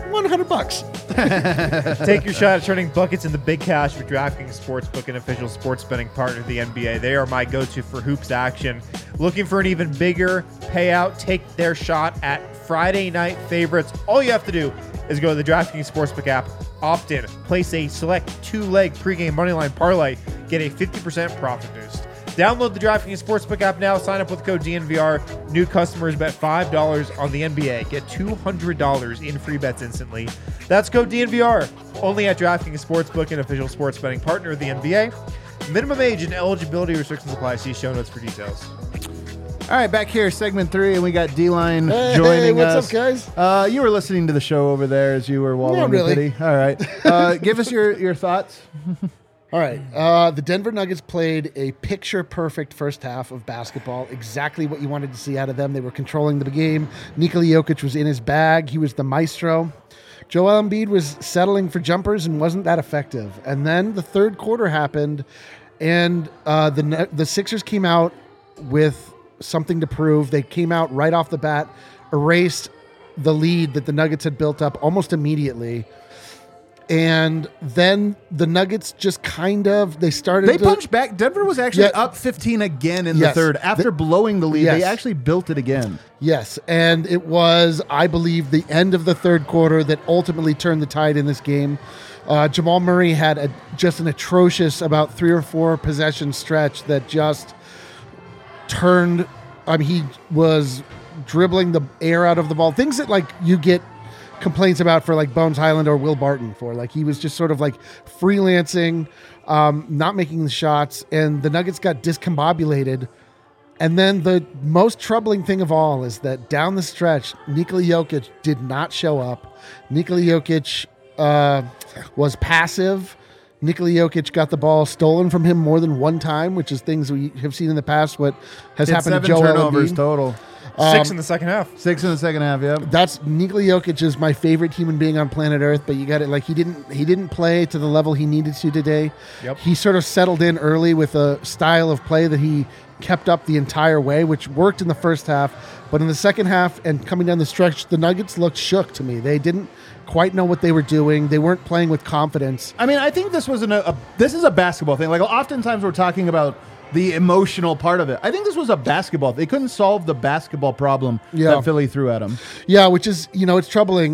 $100. Take your shot at turning buckets into big cash with DraftKings Sportsbook, an official sports betting partner of the NBA. They are my go-to for hoops action. Looking for an even bigger payout? Take their shot at Friday night favorites. All you have to do is go to the DraftKings Sportsbook app, opt in, place a select 2-leg pregame moneyline parlay, get a 50% profit boost. Download the DraftKings Sportsbook app now. Sign up with code DNVR. New customers bet $5 on the NBA. Get $200 in free bets instantly. That's code DNVR. Only at DraftKings Sportsbook, an official sports betting partner of the NBA. Minimum age and eligibility restrictions apply. See show notes for details. All right, back here, segment 3, and we got D-Line Hey, joining what's us. up, guys? You were listening to the show over there as you were wallowing Not really. in pity. All right. Give us your thoughts. All right. The Denver Nuggets played a picture-perfect first half of basketball. Exactly what you wanted to see out of them. They were controlling the game. Nikola Jokic was in his bag. He was the maestro. Joel Embiid was settling for jumpers and wasn't that effective. And then the third quarter happened, and the Sixers came out with something to prove. They came out right off the bat, erased the lead that the Nuggets had built up almost immediately. And then the Nuggets just they started They punched back. Denver was actually Yeah. up 15 again in Yes. the third. After blowing the lead, they Yes. actually built it again. Yes, and it was, I believe, the end of the third quarter that ultimately turned the tide in this game. Jamal Murray had just an atrocious about 3 or 4 possession stretch that just turned. He was dribbling the air out of the ball. Things that you get complaints about for Bones Highland or Will Barton for. He was just sort of freelancing, not making the shots, and the Nuggets got discombobulated. And then the most troubling thing of all is that down the stretch, Nikola Jokic did not show up. Nikola Jokic was passive. Nikola Jokic got the ball stolen from him more than one time, which is things we have seen in the past. What has Hit happened to 7 Joel turnovers Embiid. total. 6 in the second half. 6 in the second half, yep. That's Nikola Jokic is my favorite human being on planet Earth, but you got it. He didn't play to the level he needed to today. Yep. He sort of settled in early with a style of play that he kept up the entire way, which worked in the first half. But in the second half and coming down the stretch, the Nuggets looked shook to me. They didn't quite know what they were doing. They weren't playing with confidence. I mean, I think this was this is a basketball thing. Oftentimes we're talking about the emotional part of it. I think this was a basketball. They couldn't solve the basketball problem that Philly threw at them. Yeah, which is, it's troubling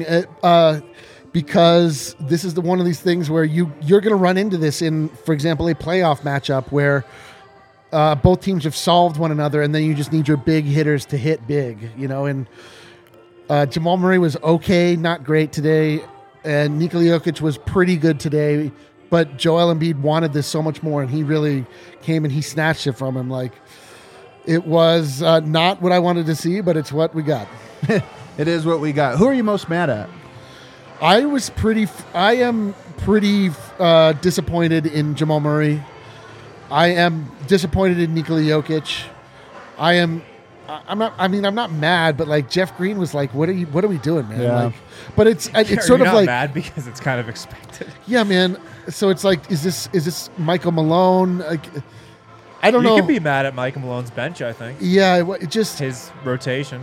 because this is one of these things where you're going to run into this in, for example, a playoff matchup where both teams have solved one another, and then you just need your big hitters to hit big, and Jamal Murray was okay, not great today, and Nikola Jokic was pretty good today, but Joel Embiid wanted this so much more, and he really came and he snatched it from him. It was not what I wanted to see, but it's what we got. It is what we got. Who are you most mad at? I am pretty disappointed in Jamal Murray. I am disappointed in Nikola Jokic. I'm not mad, but Jeff Green was what are we doing, man? Yeah. But it's sort of not mad because it's kind of expected. yeah, man. So it's is this Michael Malone? I don't know. You can be mad at Michael Malone's bench, I think. Yeah, it just His rotation.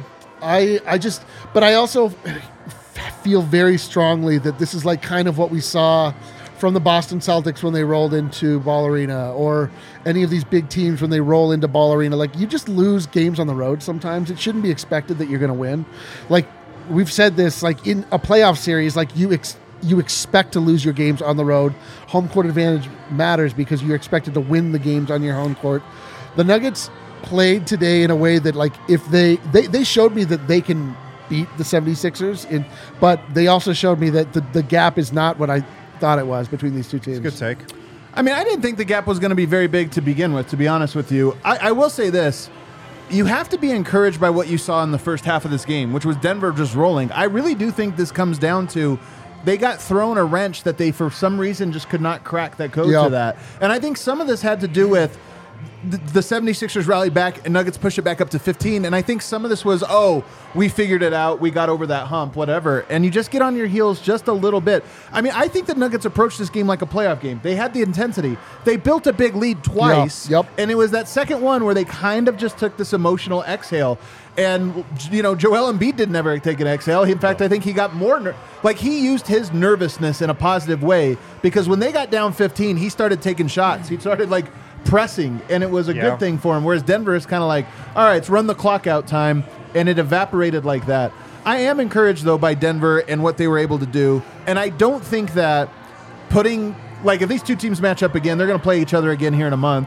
but I also feel very strongly that this is kind of what we saw from the Boston Celtics when they rolled into Ball Arena, or any of these big teams when they roll into Ball Arena. You just lose games on the road sometimes. It shouldn't be expected that you're going to win. We've said this, in a playoff series, you expect to lose your games on the road. Home court advantage matters because you're expected to win the games on your home court. The Nuggets played today in a way that if they showed me that they can beat the 76ers, but they also showed me that the gap is not what I thought it was between these two teams. Good take. I mean, I didn't think the gap was going to be very big to begin with, to be honest with you. I will say this. You have to be encouraged by what you saw in the first half of this game, which was Denver just rolling. I really do think this comes down to they got thrown a wrench that they, for some reason, just could not crack that code to that. And I think some of this had to do with the 76ers rallied back and Nuggets pushed it back up to 15. And I think some of this was, we figured it out. We got over that hump, whatever. And you just get on your heels just a little bit. I mean, I think the Nuggets approached this game like a playoff game. They had the intensity. They built a big lead twice. Yep. And it was that second one where they kind of just took this emotional exhale. And, Joel Embiid didn't ever take an exhale. In fact, I think he got more, he used his nervousness in a positive way, because when they got down 15, he started taking shots. He started pressing, and it was a good thing for him. Whereas Denver is kind of all right, it's run the clock out time, and it evaporated like that. I am encouraged, though, by Denver and what they were able to do. And I don't think that if these two teams match up again, they're going to play each other again here in a month.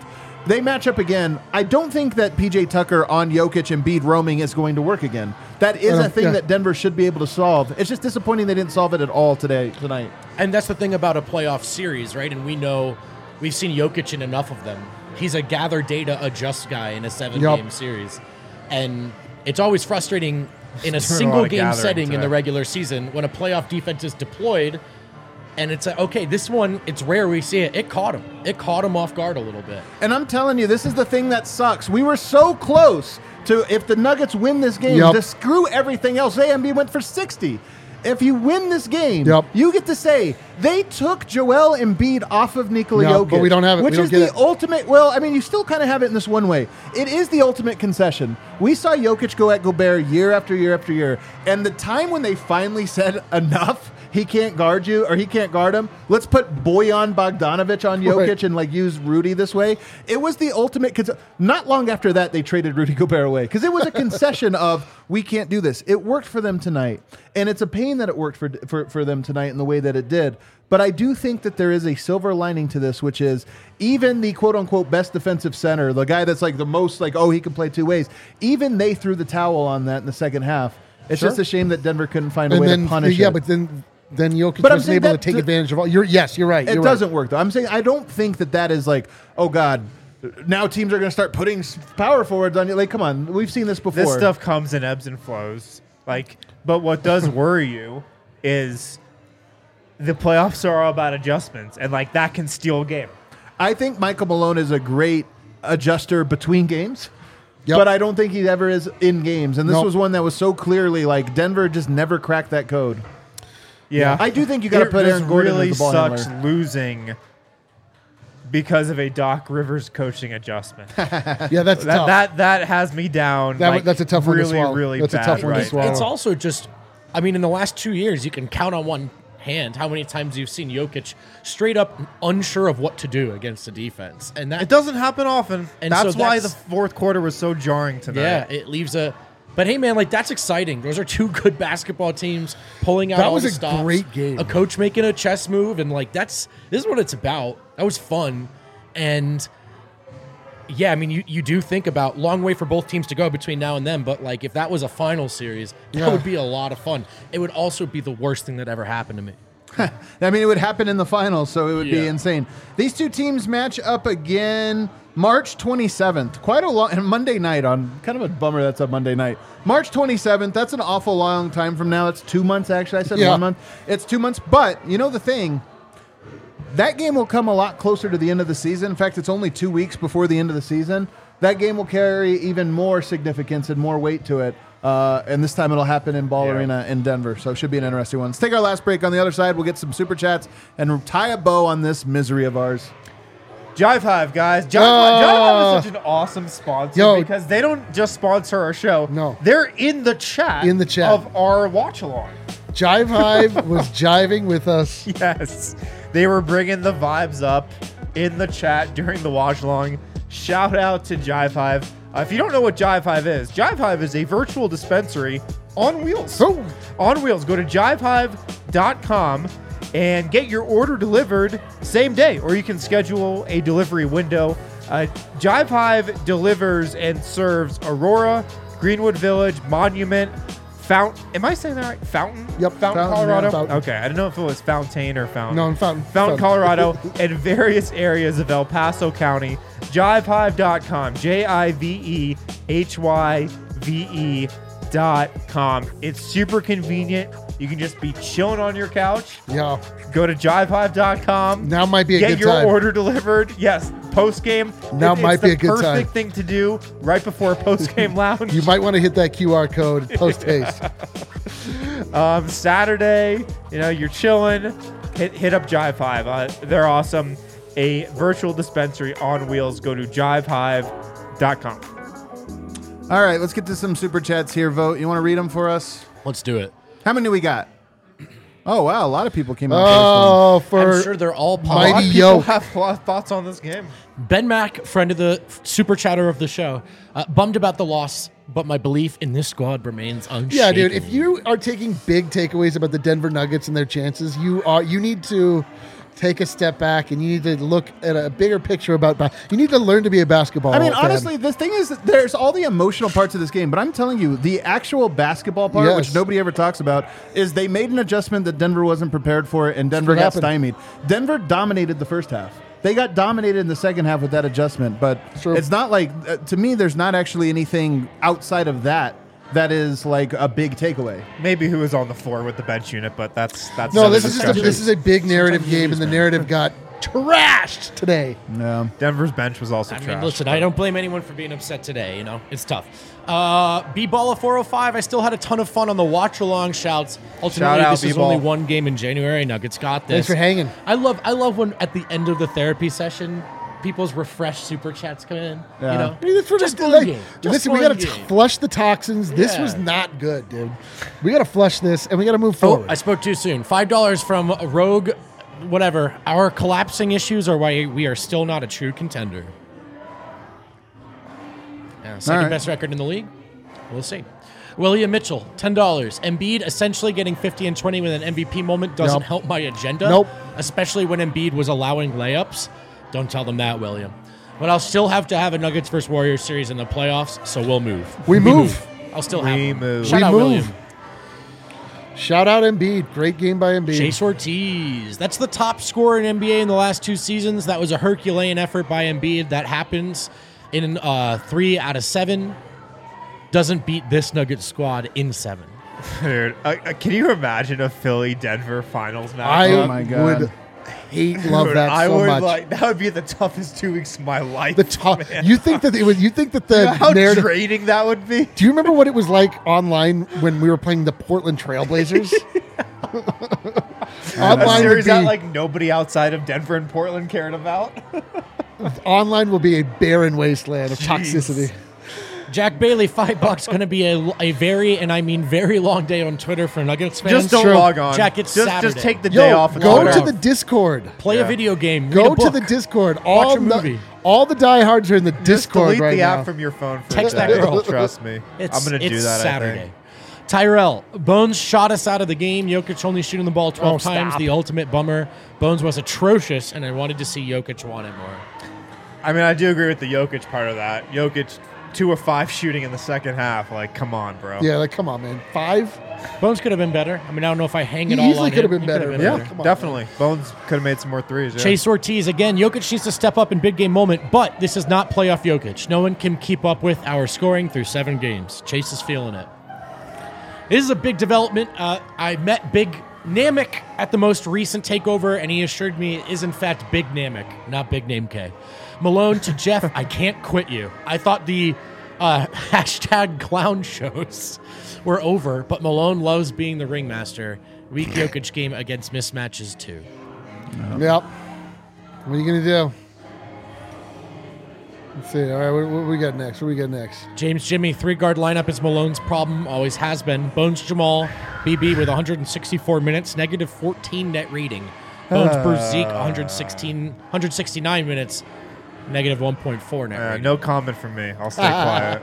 they match up again. I don't think that PJ Tucker on Jokic and Embiid roaming is going to work again. That is a thing that Denver should be able to solve. It's just disappointing they didn't solve it at all tonight. And that's the thing about a playoff series, right? And we've seen Jokic in enough of them. He's a gather data, adjust guy in a 7-game series. And it's always frustrating in a single-game setting in the regular season when a playoff defense is deployed. And it's like, okay, this one, it's rare we see it. It caught him. It caught him off guard a little bit. And I'm telling you, this is the thing that sucks. We were so close to, if the Nuggets win this game, to screw everything else. Embiid went for 60. If you win this game, you get to say, they took Joel Embiid off of Nikola Jokic. But we don't have it. Which is the ultimate, well, I mean, you still kind of have it in this one way. It is the ultimate concession. We saw Jokic go at Gobert year after year after year. And the time when they finally said enough, he can't guard you, or he can't guard him. Let's put Bojan Bogdanovic on Jokic and use Rudy this way. It was the ultimate. Not long after that, they traded Rudy Gobert away because it was a concession of we can't do this. It worked for them tonight, and it's a pain that it worked for them tonight in the way that it did. But I do think that there is a silver lining to this, which is even the quote unquote best defensive center, the guy that's the most he can play two ways. Even they threw the towel on that in the second half. It's just a shame that Denver couldn't find a way to punish it. Yeah, but then Jokic wasn't able to take advantage of all. You're right. It doesn't work, though. I'm saying I don't think that is oh, God, now teams are going to start putting power forwards on you. Come on. We've seen this before. This stuff comes in ebbs and flows. But what does worry you is the playoffs are all about adjustments, and that can steal a game. I think Michael Malone is a great adjuster between games. But I don't think he ever is in games. And this was one that was so clearly Denver just never cracked that code. Yeah, I do think you got to put Aaron Gordon as the ball handler. It really sucks losing because of a Doc Rivers coaching adjustment. Yeah, that's tough. That has me down. That's a tough one to swallow. Really that's bad, a tough one to swallow. It's also just, in the last 2 years, you can count on one hand how many times you've seen Jokic straight up unsure of what to do against the defense, and that it doesn't happen often. And that's why the fourth quarter was so jarring tonight. Yeah, it leaves a. But hey, man, that's exciting. Those are two good basketball teams pulling out all the stops. That was a great game. A coach making a chess move, and this is what it's about. That was fun, and yeah, you do think about long way for both teams to go between now and then. But if that was a final series, that would be a lot of fun. It would also be the worst thing that ever happened to me. It would happen in the finals, so it would be insane. These two teams match up again March 27th. Quite a long Monday night on kind of a bummer that's a Monday night. March 27th, that's an awful long time from now. That's 2 months actually. I said 1 month. It's 2 months, but the thing, that game will come a lot closer to the end of the season. In fact, it's only 2 weeks before the end of the season. That game will carry even more significance and more weight to it. And this time it'll happen in Ball Arena in Denver. So it should be an interesting one. Let's take our last break. On the other side, we'll get some super chats and tie a bow on this misery of ours. Jive Hive, guys. Jive Hive is such an awesome sponsor because they don't just sponsor our show. No. They're in the chat of our watch-along. Jive Hive was jiving with us. Yes. They were bringing the vibes up in the chat during the watch-along. Shout out to Jive Hive. If you don't know what Jive Hive is a virtual dispensary on wheels. Oh. On wheels. Go to jivehive.com and get your order delivered same day, or you can schedule a delivery window. Jive Hive delivers and serves Aurora, Greenwood Village, Monument, Fountain. Am I saying that right? Fountain? Yep. Fountain, Colorado? Yeah, Fountain. Okay. I didn't know if it was Fountain or Fountain. No, Fountain. Fountain, Colorado, and various areas of El Paso County. JiveHive.com. JiveHyve.com. It's super convenient. You can just be chilling on your couch. Yeah. Go to JiveHive.com. Now might be a good time. Get your order delivered. Yes. Post game. Now might be a good time. It's the perfect thing to do right before a post game lounge. You might want to hit that QR code post haste. Saturday, you're chilling. Hit up Jive Hive. They're awesome. A virtual dispensary on wheels. Go to JiveHive.com. All right, let's get to some super chats here. Vote. You want to read them for us? Let's do it. How many do we got? Oh, wow. A lot of people came out. I'm sure they're all Mighty positive. People have a lot of thoughts on this game. Ben Mack, friend of the super chatter of the show, bummed about the loss, but my belief in this squad remains unshaken. Yeah, dude. If you are taking big takeaways about the Denver Nuggets and their chances, you need to take a step back and you need to look at a bigger picture about. You need to learn to be a basketball. I mean, fan. honestly, the thing is, that there's all the emotional parts of this game, but I'm telling you, the actual basketball part, Yes. which nobody ever talks about, is they made an adjustment that Denver wasn't prepared for, and Denver what got happened. stymied. Denver dominated the first half. They got dominated in the second half with that adjustment, but True. it's not like, to me, there's not actually anything outside of that is like a big takeaway. Maybe who was on the floor with the bench unit, but that's No, another this is discussion. this is a big narrative game, and the narrative got trashed today. No. Denver's bench was also I trash. mean, listen, I don't blame anyone for being upset today. You know, it's tough. B-Ball 405. I still had a ton of fun on the watch along shouts. Ultimately, Shout out, this is B-Ball. only one game in January. Nuggets got this. Thanks for hanging. I love when at the end of the therapy session, people's refreshed super chats come in. Yeah. You know, I mean, that's what just it- one like, game. Just listen, we one got to game. flush the toxins. This Yeah. was not good, dude. We got to flush this, and we got to move Oh, forward. I spoke too soon. $5 from Rogue. Whatever. Our collapsing issues are why we are still not a true contender. Yeah, second All right. best record in the league. We'll see. William Mitchell, $10. Embiid essentially getting 50 and 20 with an MVP moment doesn't Nope. help my agenda. Nope. Especially when Embiid was allowing layups. Don't tell them that, William. But I'll still have to have a Nuggets versus Warriors series in the playoffs, so we'll move. We move. I'll still have We one. move. Shout We out, move. William. Shout out Embiid. Great game by Embiid. Chase Ortiz. That's the top scorer in NBA in the last 2 seasons. That was a Herculean effort by Embiid. That happens in 3 out of 7. Doesn't beat this Nuggets squad in 7. Dude, can you imagine a Philly-Denver finals match? I Oh my God. would love Dude, that I so would much. that would be the toughest 2 weeks of my life. The top. man. You think that it would? You think that You know the how narrative? draining that would be? Do you remember what it was like online when we were playing the Portland Trailblazers? A Online would series that be like nobody outside of Denver and Portland cared about. online will be a barren wasteland of toxicity. Jack Bailey, $5. Going to be a very, and I mean very long day on Twitter for Nuggets fans. Just don't True. log on. Jack, it's just Saturday. take the day Yo, off. And go log to on. the Discord. Play Yeah. a video game. Read Go a to book. the Discord. Watch a movie. All the diehards are in the Just Discord delete right the now. app from your phone. For Text a that second. girl. Trust me. It's, I'm gonna do it's that. Saturday. I think. Tyrell, Bones shot us out of the game. Jokic only shooting the ball 12 Oh, times. stop. The ultimate bummer. Bones was atrocious, and I wanted to see Jokic want it more. I mean, I do agree with the Jokic part of that. Jokic 2 of 5 shooting in the second half. Like, come on, bro. Yeah, like come on, man. 5. Bones could have been better. I mean, I don't know if I hang it He all easily on could have him. been He could better, have man. Yeah, Come on. definitely. Bones could have made some more threes. Yeah. Chase Ortiz again. Jokic needs to step up in big game moment, but this is not playoff Jokic. No one can keep up with our scoring through 7 games. Chase is feeling it. This is a big development. I met Big Namek at the most recent takeover, and he assured me it is in fact Big Namek, not Big Name K. Malone to Jeff, I can't quit you. I thought the hashtag clown shows were over, but Malone loves being the ringmaster. Weak Jokic game against mismatches too. Yep. What are you gonna do? Let's see. All right, what we got next? What we got next? James Jimmy, 3-guard lineup is Malone's problem, always has been. Bones Jamal, BB with 164 minutes, negative 14 net rating. Bones Bruce Zeke, 169 minutes, negative 1.4 net rating. No comment from me. I'll stay quiet.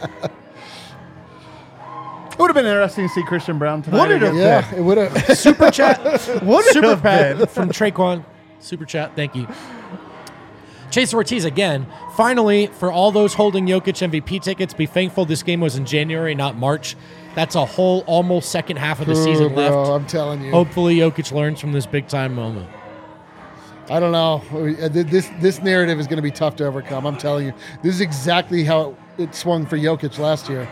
It would have been interesting to see Christian Brown tonight. Would it have again. Yeah, it would have. Super chat. Super have chat been. from Traquan. Super chat. Thank you. Chase Ortiz again. Finally, for all those holding Jokic MVP tickets, be thankful this game was in January, not March. That's a whole almost second half of the season bro, left. I'm telling you. Hopefully, Jokic learns from this big time moment. I don't know. This narrative is going to be tough to overcome. I'm telling you. This is exactly how it swung for Jokic last year.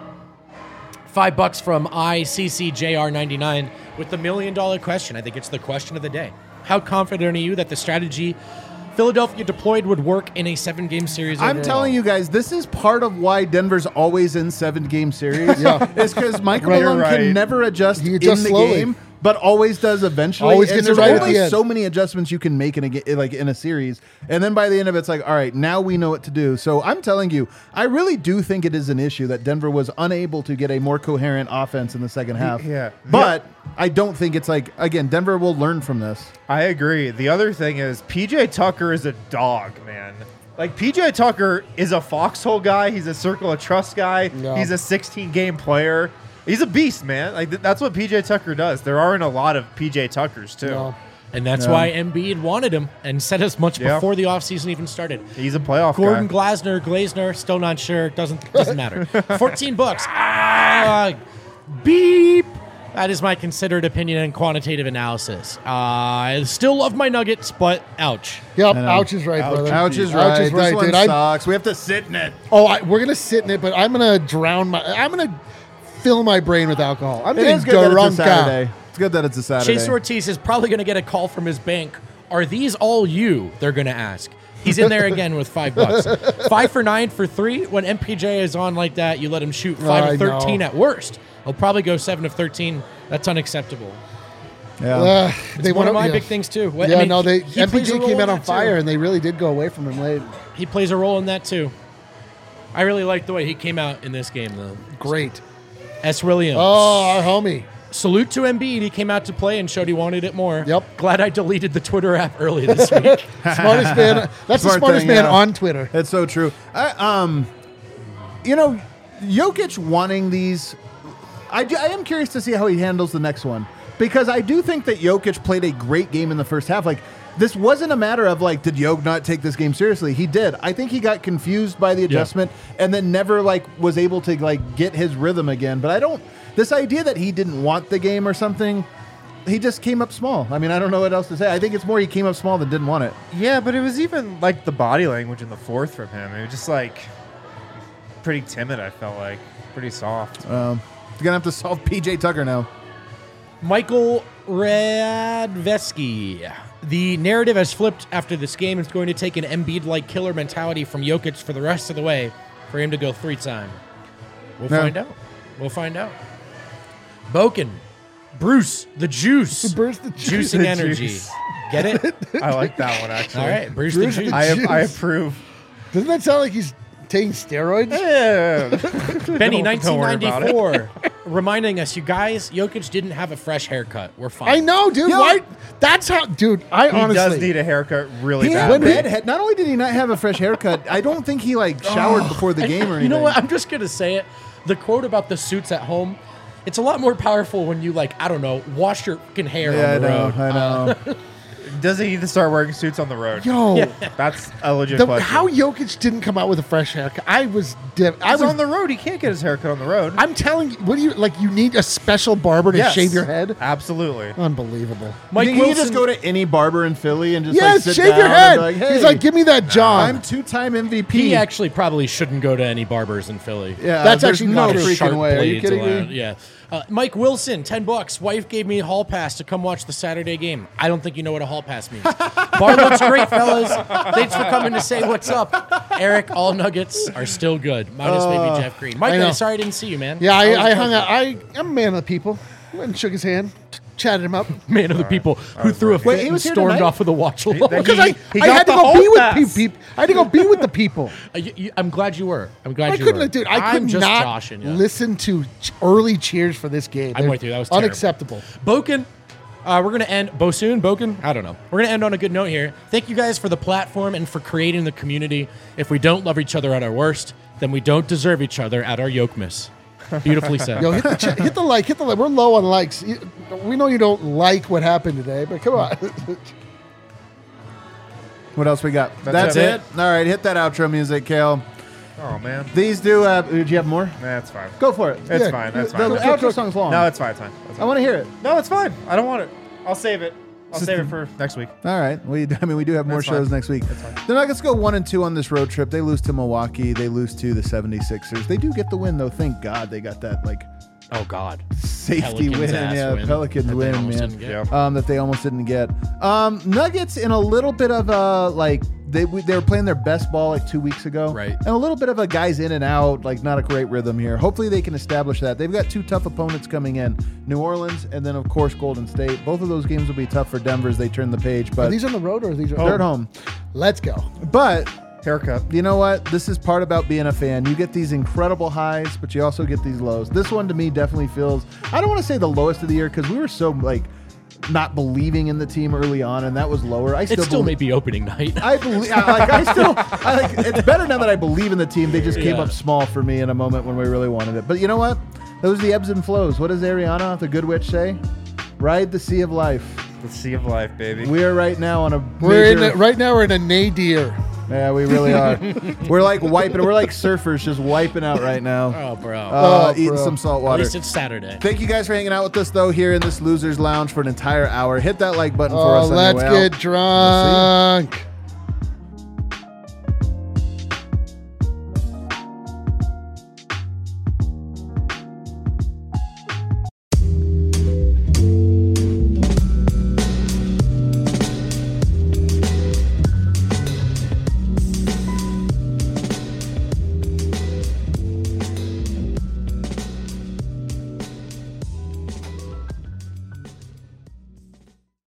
$5 from ICCJR99 with the $1 million question. I think it's the question of the day. How confident are you that the strategy Philadelphia deployed would work in a 7-game series? I'm overall? telling you guys, this is part of why Denver's always in 7-game series. Yeah. It's because Michael Right, Malone you're right. can never adjust He in adjusts the slowly. game, but always does eventually. Always And gets it there's right at only the end. so many adjustments you can make in a series, and then by the end of it, it's like, all right, now we know what to do. So I'm telling you, I really do think it is an issue that Denver was unable to get a more coherent offense in the second half. Yeah. But I don't think it's like, again, Denver will learn from this. I agree. The other thing is PJ Tucker is a dog, man. Like PJ Tucker is a foxhole guy. He's a circle of trust guy. Yeah. He's a 16-game player. He's a beast, man. Like that's what PJ Tucker does. There aren't a lot of PJ Tuckers too. No. And that's why Embiid wanted him and said as much before the offseason even started. He's a playoff Gordon guy. Glazner, still not sure. Doesn't matter. $14. Beep. That is my considered opinion and quantitative analysis. I still love my Nuggets, but ouch. Yep, ouch is right, brother. Ouch is right. This one dude. sucks. We have to sit in it. We're gonna sit in it, but I'm gonna I'm gonna fill my brain with alcohol. I'm It getting is good that it's a drunk. Saturday. It's good that it's a Saturday. Chase Ortiz is probably going to get a call from his bank. Are these all you? They're going to ask. He's in there again with $5. 5 for 9 for 3. When MPJ is on like that, you let him shoot 5 of 13 at worst. He'll probably go 7 of 13. That's unacceptable. Yeah. They One of my yeah. big things too. Yeah, he plays a MPJ role came in out on that, fire, too. and they really did go away from him late. He plays a role in that too. I really like the way he came out in this game though. Great. S. Williams. Oh, our homie. Salute to Embiid. He came out to play and showed he wanted it more. Yep. Glad I deleted the Twitter app early this week. Smartest man. That's the Smart smartest thing, man yeah. on Twitter. It's so true. Jokic wanting these. I am curious to see how he handles the next one, because I do think that Jokic played a great game in the first half. Like, this wasn't a matter of like, did Jokic not take this game seriously? He did. I think he got confused by the adjustment and then never was able to get his rhythm again. But I don't. This idea that he didn't want the game or something. He just came up small. I mean, I don't know what else to say. I think it's more he came up small than didn't want it. Yeah, but it was even like the body language in the fourth from him. It was just like pretty timid, I felt like. Pretty soft. You're going to have to solve PJ Tucker now. Michael Radveski. The narrative has flipped after this game. It's going to take an Embiid-like killer mentality from Jokic for the rest of the way for him to go 3-time. We'll find out. We'll find out. Boken. Bruce, the juice. Bruce the juice. Juicing The energy. juice. Get it? I like that one, actually. All right. Bruce, Bruce the the juice. juice. I approve. Doesn't that sound like he's taking steroids? Yeah. Benny, Don't worry about it. 1994, reminding us, you guys, Jokic didn't have a fresh haircut. We're fine. I know, dude. Yo. Why? That's how, dude. He honestly does need a haircut really He had bad. bad head. Not only did he not have a fresh haircut, I don't think he showered before the game or anything. You know what? I'm just going to say it. The quote about the suits at home, it's a lot more powerful when you, I don't know, wash your fucking hair Yeah, on the road. I know. Does he need to start wearing suits on the road? Yo, That's a legit question. how Jokic didn't come out with a fresh haircut. I was He's on the road. He can't get his haircut on the road. I'm telling you, what do you you need a special barber to Yes. shave your head? Absolutely. Unbelievable. Mike Can you Wilson, just go to any barber in Philly and just Yes, sit shave down your head. and be hey, He's like, give me that John. I'm two-time MVP. he actually probably shouldn't go to any barbers in Philly. Yeah, That's there's actually no not true. freaking way. Are you blades kidding allowed. me? Yeah. Mike Wilson, $10. Wife gave me a hall pass to come watch the Saturday game. I don't think you know what a hall pass means. Bar looks great, fellas. Thanks for coming to say what's up. Eric, all Nuggets are still good. Minus maybe Jeff Green. Mike, I know. sorry I didn't see you, man. Yeah, Always I a hung pleasure. out. I'm a man of the people. Went and shook his hand, chatted him up. Man of the people who threw a fit Wait, he and was here stormed tonight? off with a watch alone. Because I He had got to the go hall be with pass. people. I had to go be with the people. I'm glad you were. I'm glad I you were. couldn't, dude. I I'm could just not joshing you. listen to early cheers for this game. I'm They're with you. That was terrible. unacceptable. Boken, we're going to end. Boken? I don't know. We're going to end on a good note here. Thank you guys for the platform and for creating the community. If we don't love each other at our worst, then we don't deserve each other at our yokemiss. Beautifully said. Yo, hit the like. We're low on likes. We know you don't like what happened today, but come on. What else we got? That's it. it. All right, hit that outro music, Kale. Oh, man. These do. Do you have more? That's fine. Go for it. It's Yeah, fine. That's The fine. outro song's long. No, it's fine. It's fine. That's I fine. want to hear it. No, it's fine. I don't want it. I'll save it. I'll save it for next week. All right. We do have more That's shows fine. next week. That's fine. The Nuggets go 1-2 on this road trip. They lose to Milwaukee. They lose to the 76ers. They do get the win, though. Thank God they got that Oh, God. safety Pelicans win. ass Yeah, win Pelicans that they win, almost man. didn't get. Yeah. That they almost didn't get. Nuggets in a little bit of a they were playing their best ball 2 weeks ago, Right. And a little bit of a guys in and out, not a great rhythm here. Hopefully they can establish that. They've got two tough opponents coming in: New Orleans and then of course Golden State. Both of those games will be tough for Denver as they turn the page. Are But these on the road or are these they're at home. Let's go. But Haircut. you know what? This is part about being a fan. You get these incredible highs, but you also get these lows. This one to me definitely feels, I don't want to say the lowest of the year because we were so not believing in the team early on, and that was lower. I It still believe, may be opening night. I believe. It's better now that I believe in the team. They just came Yeah. up small for me in a moment when we really wanted it. But you know what? Those are the ebbs and flows. What does Ariana, the good witch, say? Ride the sea of life. The sea of life, baby. We are right now on a Right now we're in a nadir. Yeah, we really are. We're like wiping. We're like surfers, just wiping out right now. Oh, bro. Eating some salt At water. least it's Saturday. Thank you guys for hanging out with us, though, here in this Losers Lounge for an entire hour. Hit that like button for us. Let's anyway. get drunk.